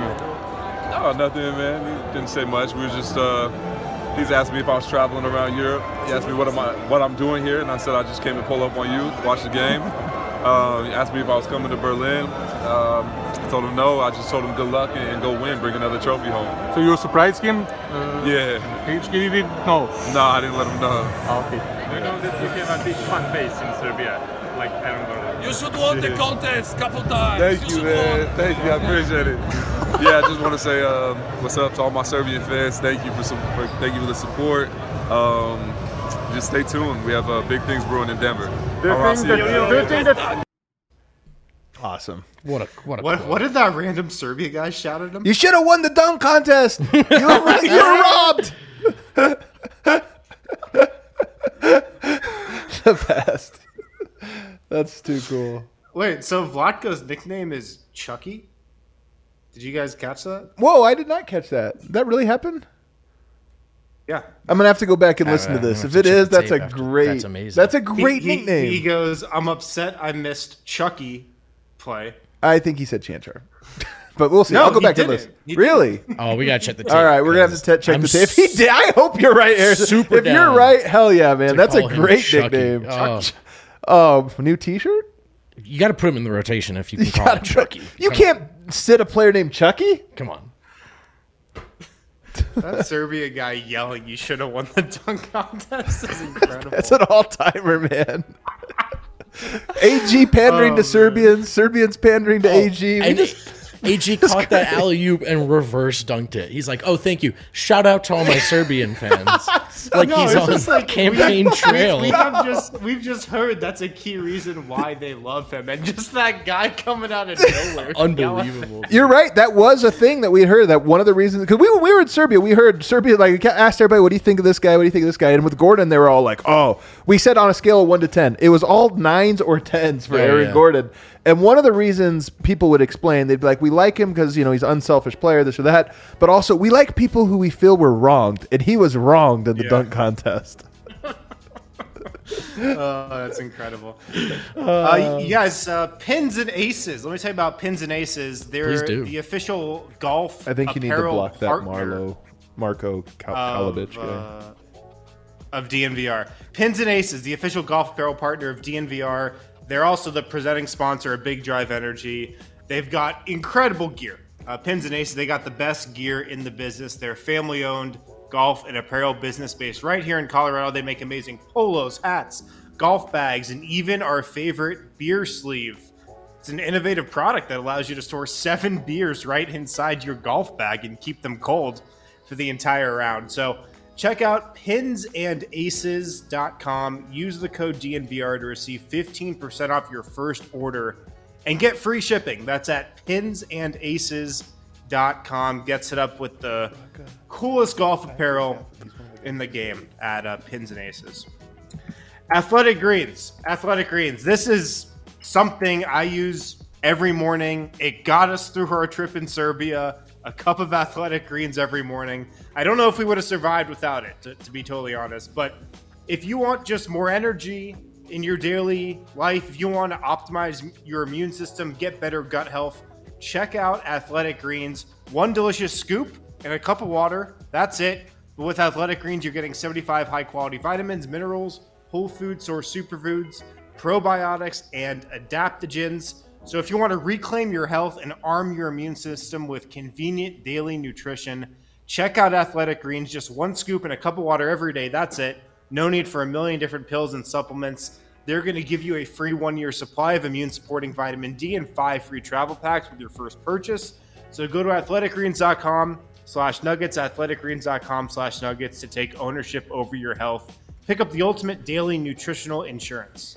Oh, nothing, man. He didn't say much. We were just. Uh, He's asked me if I was traveling around Europe. He asked me what am I, what I'm doing here, and I said I just came to pull up on you, watch the game. Uh, he asked me if I was coming to Berlin. Um, I told him no. I just told him good luck and, and go win, bring another trophy home. So you surprised him? Uh, yeah. He, he didn't know? No, I didn't let him know. Oh, okay. Do you know that you have a big fan base in Serbia, like Aaron Gordon? You should won the contest a couple times. Thank you, you, man. won. Thank you. I appreciate it. Yeah, I just want to say um, what's up to all my Serbian fans. Thank you for some. For, thank you for the support. Um, just stay tuned. We have uh, big things brewing in Denver. Do you I'll think see that, you. do you think that Awesome. what a, what a, What quote. what did that random Serbia guy shout at him? You should have won the dunk contest. You were, you were robbed. The best. That's too cool. Wait, so Vlatko's nickname is Chucky? Did you guys catch that? Whoa, I did not catch that. Did that really happen? Yeah. I'm gonna have to go back and listen I- to I'm this. gonna If have it to check is, the that's a tape after. great. That's amazing. That's a He- great he, nickname. He goes, I'm upset I missed Chucky play. I think he said Chanchar, but we'll see. No, I'll go he back to didn't. listen. He Really? Oh, we gotta check the tape. All right, we're gonna have to te- check I'm the tape. If he did, I hope you're right, Harrison. super If you're down right, hell yeah, man. to That's a call him great Chucky. nickname. Oh. Oh, new T-shirt. You got to put him in the rotation if you can call Gotta him put- Chucky. You Come can't sit a player named Chucky. Come on. That Serbia guy yelling, you should have won the dunk contest is incredible. That's an all-timer, man. A G pandering Oh, to man. Serbians, Serbians pandering to A G. We And just A G caught that alley-oop and reverse dunked it. He's like, oh, thank you. Shout out to all my Serbian fans. Like No, he's it's on just like campaign trail. We have just we've just heard that's a key reason why they love him, and just that guy coming out of nowhere. Unbelievable. You're right. That was a thing that we had heard. That one of the reasons, because we, when we were in Serbia, we heard Serbia, like, asked everybody, what do you think of this guy? What do you think of this guy? And with Gordon, they were all like, oh, we said on a scale of one to ten. It was all nines or tens for Yeah, Aaron yeah. Gordon. And one of the reasons people would explain, they'd be like, we like him because, you know, he's an unselfish player, this or that. But also, we like people who we feel were wronged. And he was wronged in the Yeah. dunk contest. Oh, that's incredible. Uh, you guys, uh, Pins and Aces. Let me tell you about Pins and Aces. They're the official golf I think you need to block that Marlo, Marco Kalovich of, guy. uh, of D N V R. Pins and Aces, the official golf apparel partner of D N V R. They're also the presenting sponsor of Big Drive Energy. They've got incredible gear. Uh, Pins and Aces, they got the best gear in the business. They're family-owned golf and apparel business based right here in Colorado. They make amazing polos, hats, golf bags, and even our favorite beer sleeve. It's an innovative product that allows you to store seven beers right inside your golf bag and keep them cold for the entire round. So check out pins and aces dot com. Use the code D N V R to receive fifteen percent off your first order and get free shipping. That's at pins and aces dot com. Get set up with the coolest golf apparel in the game at uh, Pins and Aces. Athletic Greens. Athletic Greens. This is something I use every morning. It got us through our trip in Serbia. A cup of Athletic Greens every morning. I don't know if we would have survived without it, to, to be totally honest. But if you want just more energy in your daily life, if you want to optimize your immune system, get better gut health, check out Athletic Greens. One delicious scoop and a cup of water. That's it. But with Athletic Greens, you're getting seventy-five high-quality vitamins, minerals, whole food source superfoods, probiotics, and adaptogens. So if you want to reclaim your health and arm your immune system with convenient daily nutrition, check out Athletic Greens. Just one scoop and a cup of water every day. That's it. No need for a million different pills and supplements. They're going to give you a free one-year supply of immune-supporting vitamin D and five free travel packs with your first purchase. So go to athletic greens dot com slash nuggets, athletic greens dot com slash nuggets to take ownership over your health. Pick up the ultimate daily nutritional insurance.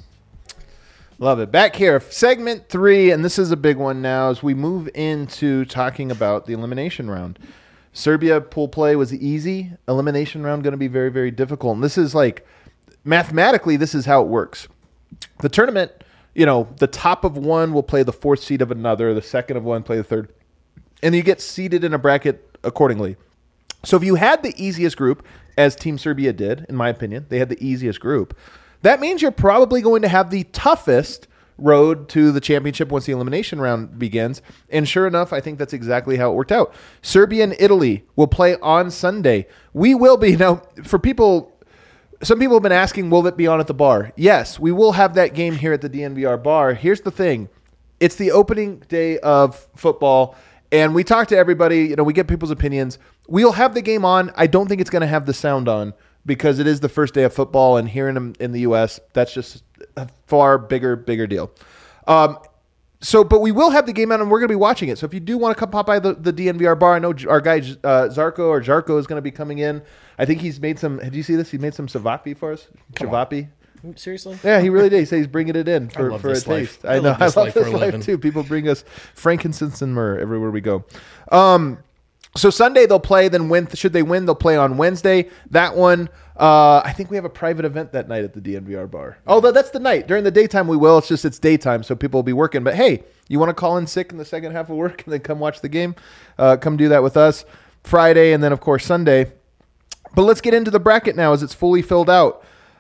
Love it. Back here, segment three, and this is a big one now as we move into talking about the elimination round. Serbia pool play was easy. Elimination round going to be very, very difficult. And this is like, mathematically, this is how it works. The tournament, you know, the top of one will play the fourth seed of another, the second of one play the third, and you get seeded in a bracket accordingly. So if you had the easiest group, as Team Serbia did, in my opinion, they had the easiest group, that means you're probably going to have the toughest road to the championship once the elimination round begins. And sure enough, I think that's exactly how it worked out. Serbia and Italy will play on Sunday. We will be, now, for people... Some people have been asking, will it be on at the bar? Yes, we will have that game here at the D N V R bar. Here's the thing. It's the opening day of football, and we talk to everybody. You know, we get people's opinions. We'll have the game on. I don't think it's going to have the sound on because it is the first day of football, and here in, in the U S, that's just a far bigger, bigger deal. Um, so, but we will have the game on, and we're going to be watching it. So if you do want to come pop by the, the D N V R bar, I know our guy uh, Zarko or Jarko is going to be coming in. I think he's made some. Did you see this? He made some Savapi for us. Savapi. Seriously? Yeah, he really did. He said he's bringing it in for, I love for a this taste. life. I I know. love this I love life for this a life living. too. People bring us frankincense and myrrh everywhere we go. Um, so Sunday they'll play. Then when should they win? They'll play on Wednesday. That one. Uh, I think we have a private event that night at the D N V R bar. Although that's the night. During the daytime we will. It's just it's daytime, so people will be working. But hey, you want to call in sick in the second half of work and then come watch the game? Uh, come do that with us. Friday and then of course Sunday. But let's get into the bracket now as it's fully filled out.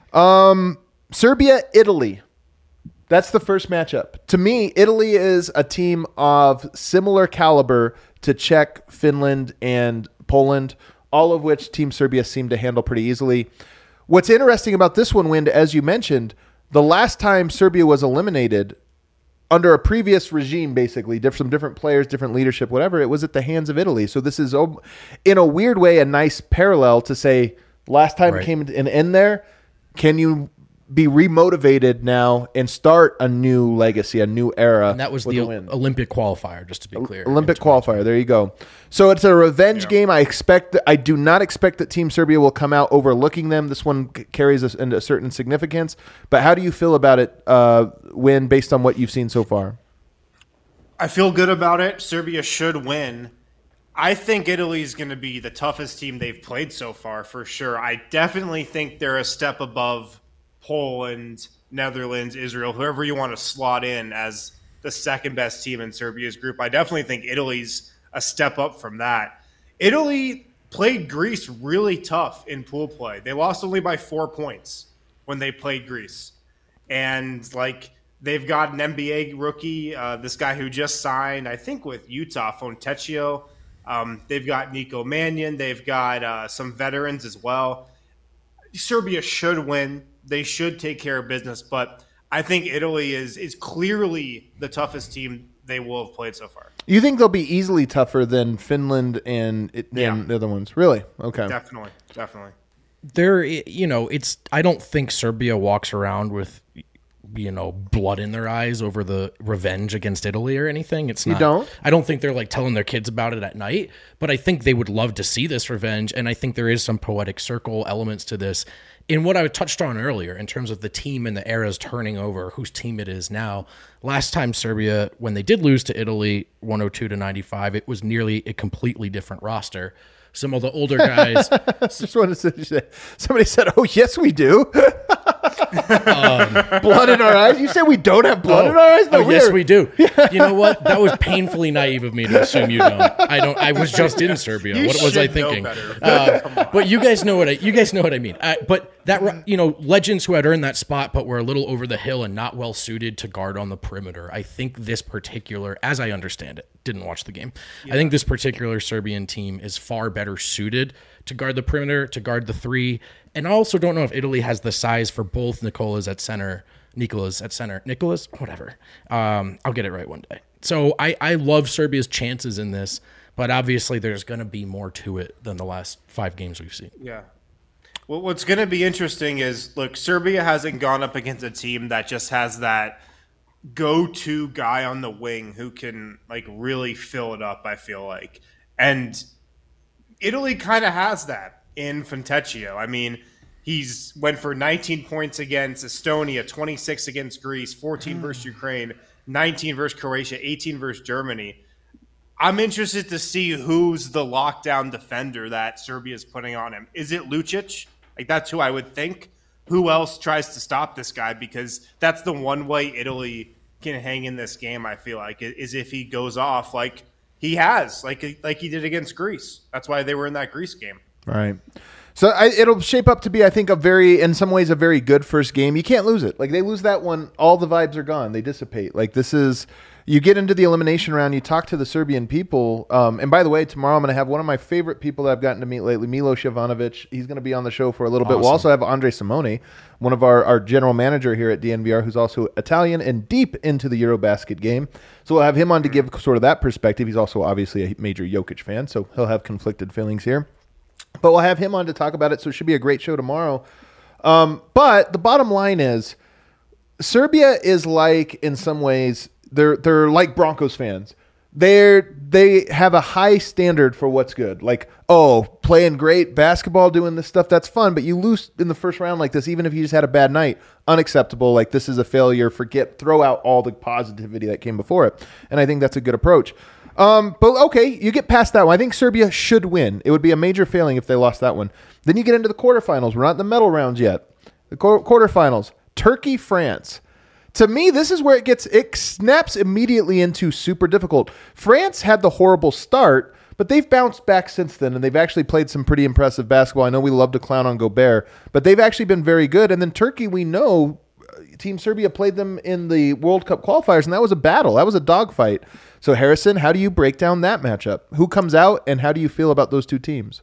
Um, Serbia, Italy. That's the first matchup. To me, Italy is a team of similar caliber to Czech, Finland, and Poland, all of which Team Serbia seemed to handle pretty easily. What's interesting about this one, Wind, as you mentioned, the last time Serbia was eliminated under a previous regime, basically, diff- some different players, different leadership, whatever, it was at the hands of Italy. So this is, oh, in a weird way, a nice parallel to say, last time Right. it came an end there, can you be remotivated now and start a new legacy, a new era? And that was with the a win? Olympic qualifier, just to be clear. Olympic qualifier. There you go. So it's a revenge Yeah. game. I expect. That, I do not expect that Team Serbia will come out overlooking them. This one c- carries a, a certain significance. But how do you feel about it, uh, Win, based on what you've seen so far? I feel good about it. Serbia should win. I think Italy's going to be the toughest team they've played so far, for sure. I definitely think they're a step above Poland, Netherlands, Israel, whoever you want to slot in as the second best team in Serbia's group. I definitely think Italy's a step up from that. Italy played Greece really tough in pool play. They lost only by four points. when they played Greece. And like they've got an N B A rookie, uh, this guy who just signed, I think, with Utah, Fontecchio. Um, they've got Nico Mannion. They've got uh, some veterans as well. Serbia should win. They should take care of business, but I think Italy is is clearly the toughest team they will have played so far. You think they'll be easily tougher than Finland and, and Yeah. the other ones? Really? Okay. Definitely, definitely. There, you know, it's. I don't think Serbia walks around with, you know, blood in their eyes over the revenge against Italy or anything. It's You not. don't? I don't think they're like telling their kids about it at night. But I think they would love to see this revenge, and I think there is some poetic circle elements to this. In what I touched on earlier, in terms of the team and the eras turning over, whose team it is now. Last time Serbia, when they did lose to Italy, one oh two to ninety-five, it was nearly a completely different roster. Some of the older guys. Just wanted to say, somebody said, "Oh yes, we do." um, blood in our eyes. You said we don't have blood oh, in our eyes? No, oh yes, are- we do. You know what? That was painfully naive of me to assume you don't. I don't. I was just in Serbia. You What was I should know thinking? better. Uh, but you guys know what I. You guys know what I mean. I, but that you know, legends who had earned that spot, but were a little over the hill and not well suited to guard on the perimeter. I think this particular, as I understand it, didn't watch the game. Yeah. I think this particular Serbian team is far better suited to guard the perimeter, to guard the three. And I also don't know if Italy has the size for both Nicolas at center, Nicolas at center, Nicolas, whatever. Um, I'll get it right one day. So I, I love Serbia's chances in this, but obviously there's going to be more to it than the last five games we've seen. Yeah. Well, what's going to be interesting is, look, Serbia hasn't gone up against a team that just has that go-to guy on the wing who can like really fill it up, I feel like. And Italy kind of has that in Fontecchio. I mean, he's went for nineteen points against Estonia, twenty-six against Greece, fourteen versus Ukraine, nineteen versus Croatia, eighteen versus Germany. I'm interested to see who's the lockdown defender that Serbia is putting on him. Is it Lucic? Like, that's who I would think. Who else tries to stop this guy? Because that's the one way Italy can hang in this game, I feel like, is if he goes off like he has, like like he did against Greece. That's why they were in that Greece game. Right. So I, it'll shape up to be, I think, a very, in some ways, a very good first game. You can't lose it. Like, they lose that one, all the vibes are gone. They dissipate. Like, this is, you get into the elimination round, you talk to the Serbian people. Um, and by the way, tomorrow I'm going to have one of my favorite people that I've gotten to meet lately, Milos Jovanovic. He's going to be on the show for a little Awesome. bit. We'll also have Andre Simone, one of our, our general manager here at D N V R, who's also Italian and deep into the Eurobasket game. So we'll have him on to give sort of that perspective. He's also obviously a major Jokic fan, so he'll have conflicted feelings here. But we'll have him on to talk about it, so it should be a great show tomorrow. Um, but the bottom line is, Serbia is like, in some ways, they're they're like Broncos fans. They're they have a high standard for what's good. Like, oh, playing great basketball, doing this stuff, that's fun. But you lose in the first round like this, even if you just had a bad night, unacceptable. Like, this is a failure. Forget, throw out all the positivity that came before it. And I think that's a good approach. Um, but okay, you get past that one. I think Serbia should win. It would be a major failing if they lost that one. Then you get into the quarterfinals. We're not in the medal rounds yet. The qu- quarterfinals, Turkey, France. To me, this is where it gets, it snaps immediately into super difficult. France had the horrible start, but they've bounced back since then, and they've actually played some pretty impressive basketball. I know we love to clown on Gobert, but they've actually been very good. And then Turkey, we know, Team Serbia played them in the World Cup qualifiers, and that was a battle. That was a dogfight. So, Harrison, how do you break down that matchup? Who comes out, and how do you feel about those two teams?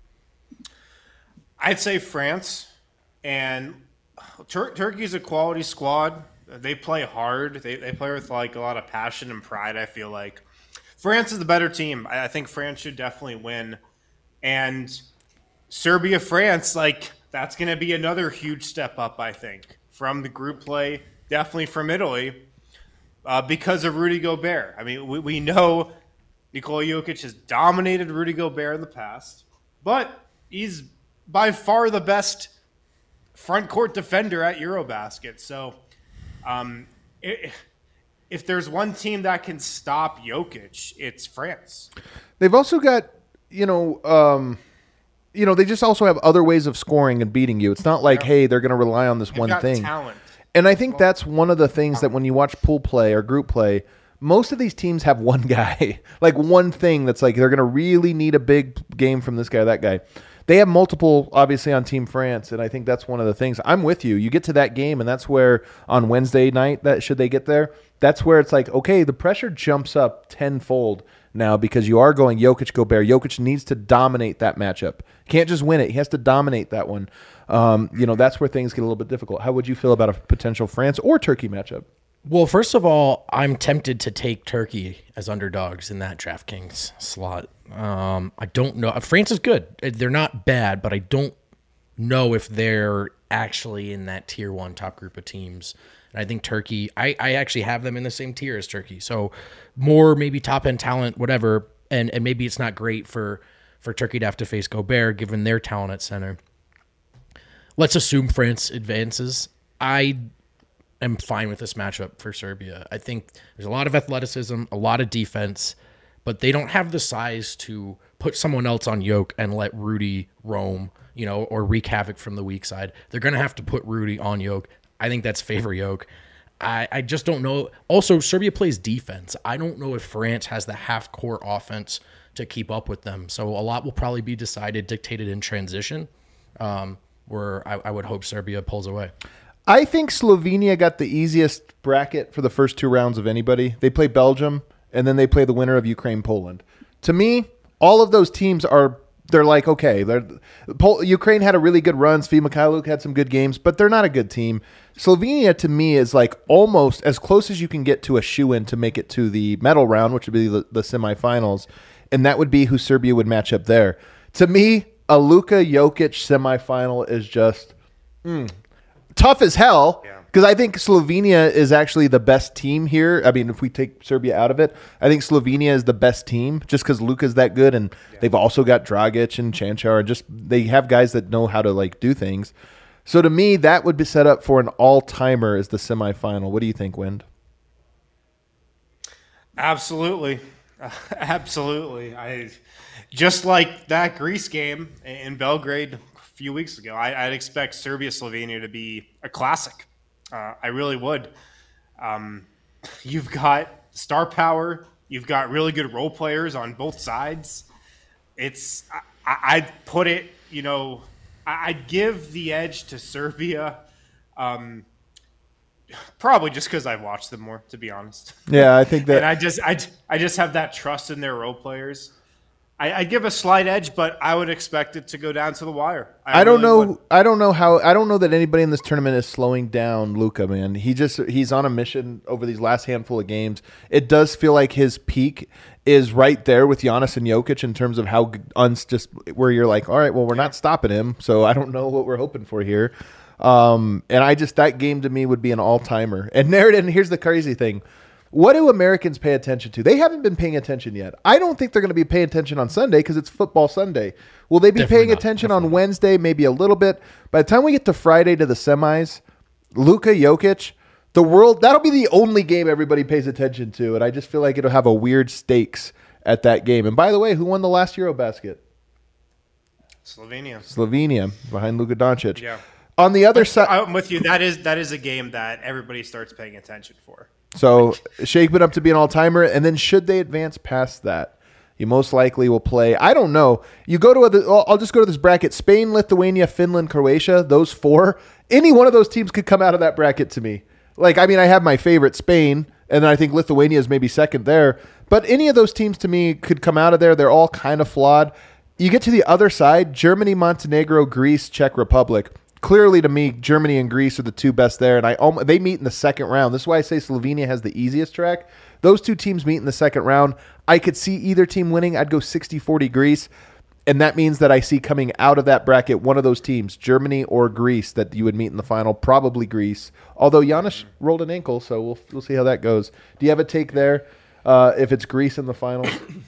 I'd say France. And Tur- Turkey's a quality squad. They play hard. They they play with like a lot of passion and pride, I feel like. France is the better team. I, I think France should definitely win. And Serbia, France, like, that's going to be another huge step up, I think, from the group play, definitely from Italy, uh, because of Rudy Gobert. I mean, we, we know Nikola Jokic has dominated Rudy Gobert in the past, but he's by far the best front court defender at Eurobasket. So um, it, if there's one team that can stop Jokic, it's France. They've also got, you know, um, you know, they just also have other ways of scoring and beating you. It's not like, yeah. hey, they're going to rely on this They've one got thing. Talent. And I think that's one of the things that when you watch pool play or group play, most of these teams have one guy, like one thing that's like they're going to really need a big game from this guy or that guy. they have multiple, obviously, on Team France, and I think that's one of the things. I'm with you. You get to that game, and that's where on Wednesday night, that should they get there, that's where it's like, okay, the pressure jumps up tenfold now because you are going Jokic, Gobert. Jokic needs to dominate that matchup. Can't just win it. He has to dominate that one. Um, you know, that's where things get a little bit difficult. How would you feel about a potential France or Turkey matchup? Well, first of all, I'm tempted to take Turkey as underdogs in that DraftKings slot. Um, I don't know. France is good. They're not bad, but I don't know if they're actually in that tier one top group of teams. And I think Turkey, I, I actually have them in the same tier as Turkey. So more maybe top end talent, whatever. And, and maybe it's not great for, for Turkey to have to face Gobert given their talent at center. Let's assume France advances. I am fine with this matchup for Serbia. I think there's a lot of athleticism, a lot of defense, but they don't have the size to put someone else on Yoke and let Rudy roam, you know, or wreak havoc from the weak side. They're going to have to put Rudy on Yoke. I think that's favor Yoke. I, I just don't know. Also, Serbia plays defense. I don't know if France has the half-court offense to keep up with them. So a lot will probably be decided, dictated in transition, um, where I, I would hope Serbia pulls away. I think Slovenia got the easiest bracket for the first two rounds of anybody. They play Belgium, and then they play the winner of Ukraine-Poland. To me, all of those teams are – they're like, okay, they're, Pol- Ukraine had a really good run. Svi Mikhailuk had some good games, but they're not a good team. Slovenia, to me, is like almost as close as you can get to a shoe-in to make it to the medal round, which would be the, the semifinals, and that would be who Serbia would match up there. To me, a Luka Jokic semifinal is just mm, tough as hell because I think Slovenia is actually the best team here. I mean, if we take Serbia out of it, I think Slovenia is the best team just because Luka's that good, and yeah. they've also got Dragic and Chanchar. Just they have guys that know how to like do things. So to me, that would be set up for an all-timer as the semifinal. What do you think, Wind? Absolutely. Uh, absolutely. I just like that Greece game in Belgrade a few weeks ago. I, I'd expect Serbia-Slovenia to be a classic. Uh, I really would. Um, you've got star power. You've got really good role players on both sides. It's I, I'd put it, you know, I'd give the edge to Serbia, um, probably just because I've watched them more, to be honest. Yeah, I think that. And I just, I, I just have that trust in their role players. I, I'd give a slight edge, but I would expect it to go down to the wire. I, I don't really know. would. I don't know how. I don't know that anybody in this tournament is slowing down Luka. Man, he just he's on a mission over these last handful of games. It does feel like his peak is right there with Giannis and Jokic in terms of how uns just where you're like, all right, well, we're not stopping him, so I don't know what we're hoping for here. Um, and I just that game to me would be an all timer. And there, and here's the crazy thing. What do Americans pay attention to? They haven't been paying attention yet. I don't think they're going to be paying attention on Sunday because it's football Sunday. Will they be Definitely paying not. attention Definitely on Wednesday? Maybe a little bit. By the time we get to Friday to the semis, Luka Jokic, the world, that'll be the only game everybody pays attention to. And I just feel like it'll have a weird stakes at that game. And by the way, who won the last Eurobasket? Slovenia. Slovenia, behind Luka Doncic. Yeah. On the other side, I'm with you. That is that is a game that everybody starts paying attention for. So shape it up to be an all-timer, and then should they advance past that, you most likely will play. I don't know. You go to other. I'll just go to this bracket: Spain, Lithuania, Finland, Croatia. Those four. Any one of those teams could come out of that bracket to me. Like, I mean, I have my favorite, Spain, and then I think Lithuania is maybe second there. But any of those teams to me could come out of there. They're all kind of flawed. You get to the other side: Germany, Montenegro, Greece, Czech Republic. Clearly, to me, Germany and Greece are the two best there, and I almost, they meet in the second round. This is why I say Slovenia has the easiest track. Those two teams meet in the second round. I could see either team winning. I'd go sixty forty Greece, and that means that I see coming out of that bracket one of those teams, Germany or Greece, that you would meet in the final, probably Greece. Although Giannis rolled an ankle, so we'll we'll see how that goes. Do you have a take there uh, if it's Greece in the final?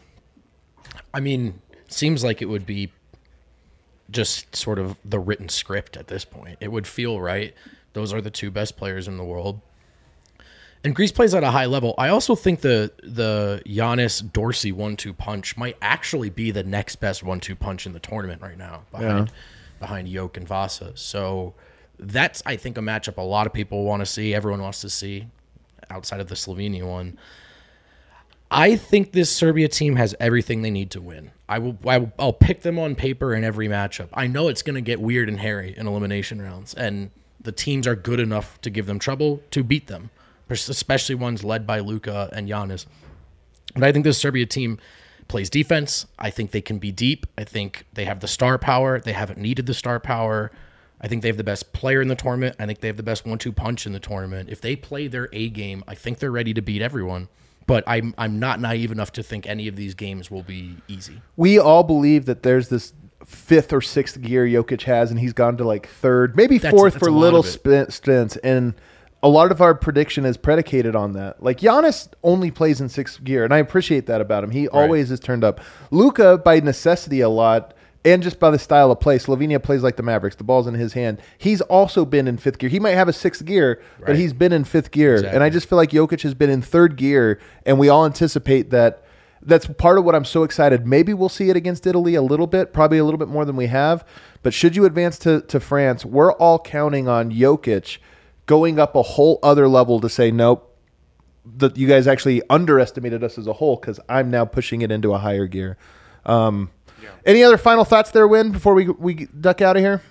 I mean, seems like it would be just sort of the written script at this point. It would feel right. Those are the two best players in the world. And Greece plays at a high level. I also think the the Giannis Dorsey one two punch might actually be the next best one two punch in the tournament right now behind Yeah. behind Jokic and Vasa. So that's, I think, a matchup a lot of people want to see. Everyone wants to see outside of the Slovenia one. I think this Serbia team has everything they need to win. I will, I will I'll pick them on paper in every matchup. I know it's going to get weird and hairy in elimination rounds, and the teams are good enough to give them trouble to beat them, especially ones led by Luka and Giannis. But I think this Serbia team plays defense. I think they can be deep. I think they have the star power. They haven't needed the star power. I think they have the best player in the tournament. I think they have the best one two punch in the tournament. If they play their A game, I think they're ready to beat everyone. But I'm I'm not naive enough to think any of these games will be easy. We all believe that there's this fifth or sixth gear Jokic has, and he's gone to like third, maybe That's- fourth that's for a lot little of it. spin- stints. And a lot of our prediction is predicated on that. Like Giannis only plays in sixth gear, and I appreciate that about him. He always is turned up. Luka, by necessity a lot, and just by the style of play, Slovenia plays like the Mavericks. The ball's in his hand. He's also been in fifth gear. He might have a sixth gear, but Right. he's been in fifth gear. Exactly. And I just feel like Jokic has been in third gear, and we all anticipate that. That's part of what I'm so excited. Maybe we'll see it against Italy a little bit, probably a little bit more than we have. But should you advance to, to France, we're all counting on Jokic going up a whole other level to say, nope, that you guys actually underestimated us as a whole because I'm now pushing it into a higher gear. Um, yeah. Any other final thoughts there, Win, before we we duck out of here?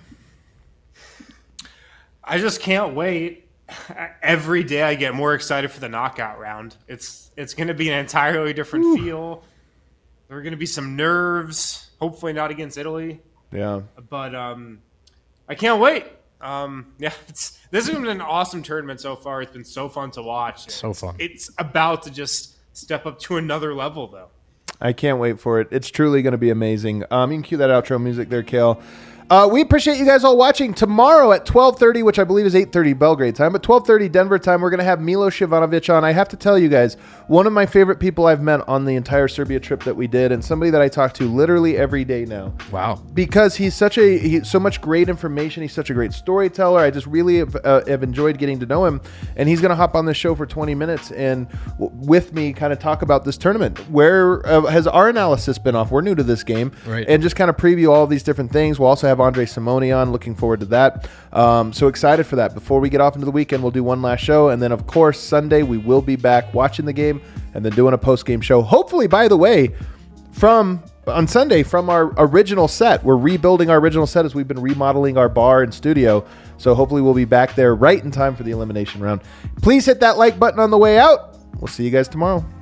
I just can't wait. Every day I get more excited for the knockout round. It's it's going to be an entirely different Ooh. feel. There are going to be some nerves. Hopefully not against Italy. Yeah. But um, I can't wait. Um, yeah, it's this has been an awesome tournament so far. It's been so fun to watch. So it's, fun. It's about to just step up to another level, though. I can't wait for it. It's truly going to be amazing. Um, you can cue that outro music there, Kale. Uh, we appreciate you guys all watching. Tomorrow at twelve thirty, which I believe is eight thirty Belgrade time, but twelve thirty Denver time, we're going to have Milos Ivanovic on. I have to tell you guys, one of my favorite people I've met on the entire Serbia trip that we did, and somebody that I talk to literally every day now. Wow. Because he's such a he, so much great information. He's such a great storyteller. I just really have, uh, have enjoyed getting to know him, and he's going to hop on the show for twenty minutes and w- with me kind of talk about this tournament. Where uh, has our analysis been off? We're new to this game. Right. And just kind of preview all of these different things. We'll also have Andre Simone on. Looking forward to that. Um, so excited for that. Before we get off into the weekend, we'll do one last show. And then, of course, Sunday, we will be back watching the game and then doing a post-game show. Hopefully, by the way, from on Sunday, from our original set. We're rebuilding our original set as we've been remodeling our bar and studio. So hopefully we'll be back there right in time for the elimination round. Please hit that like button on the way out. We'll see you guys tomorrow.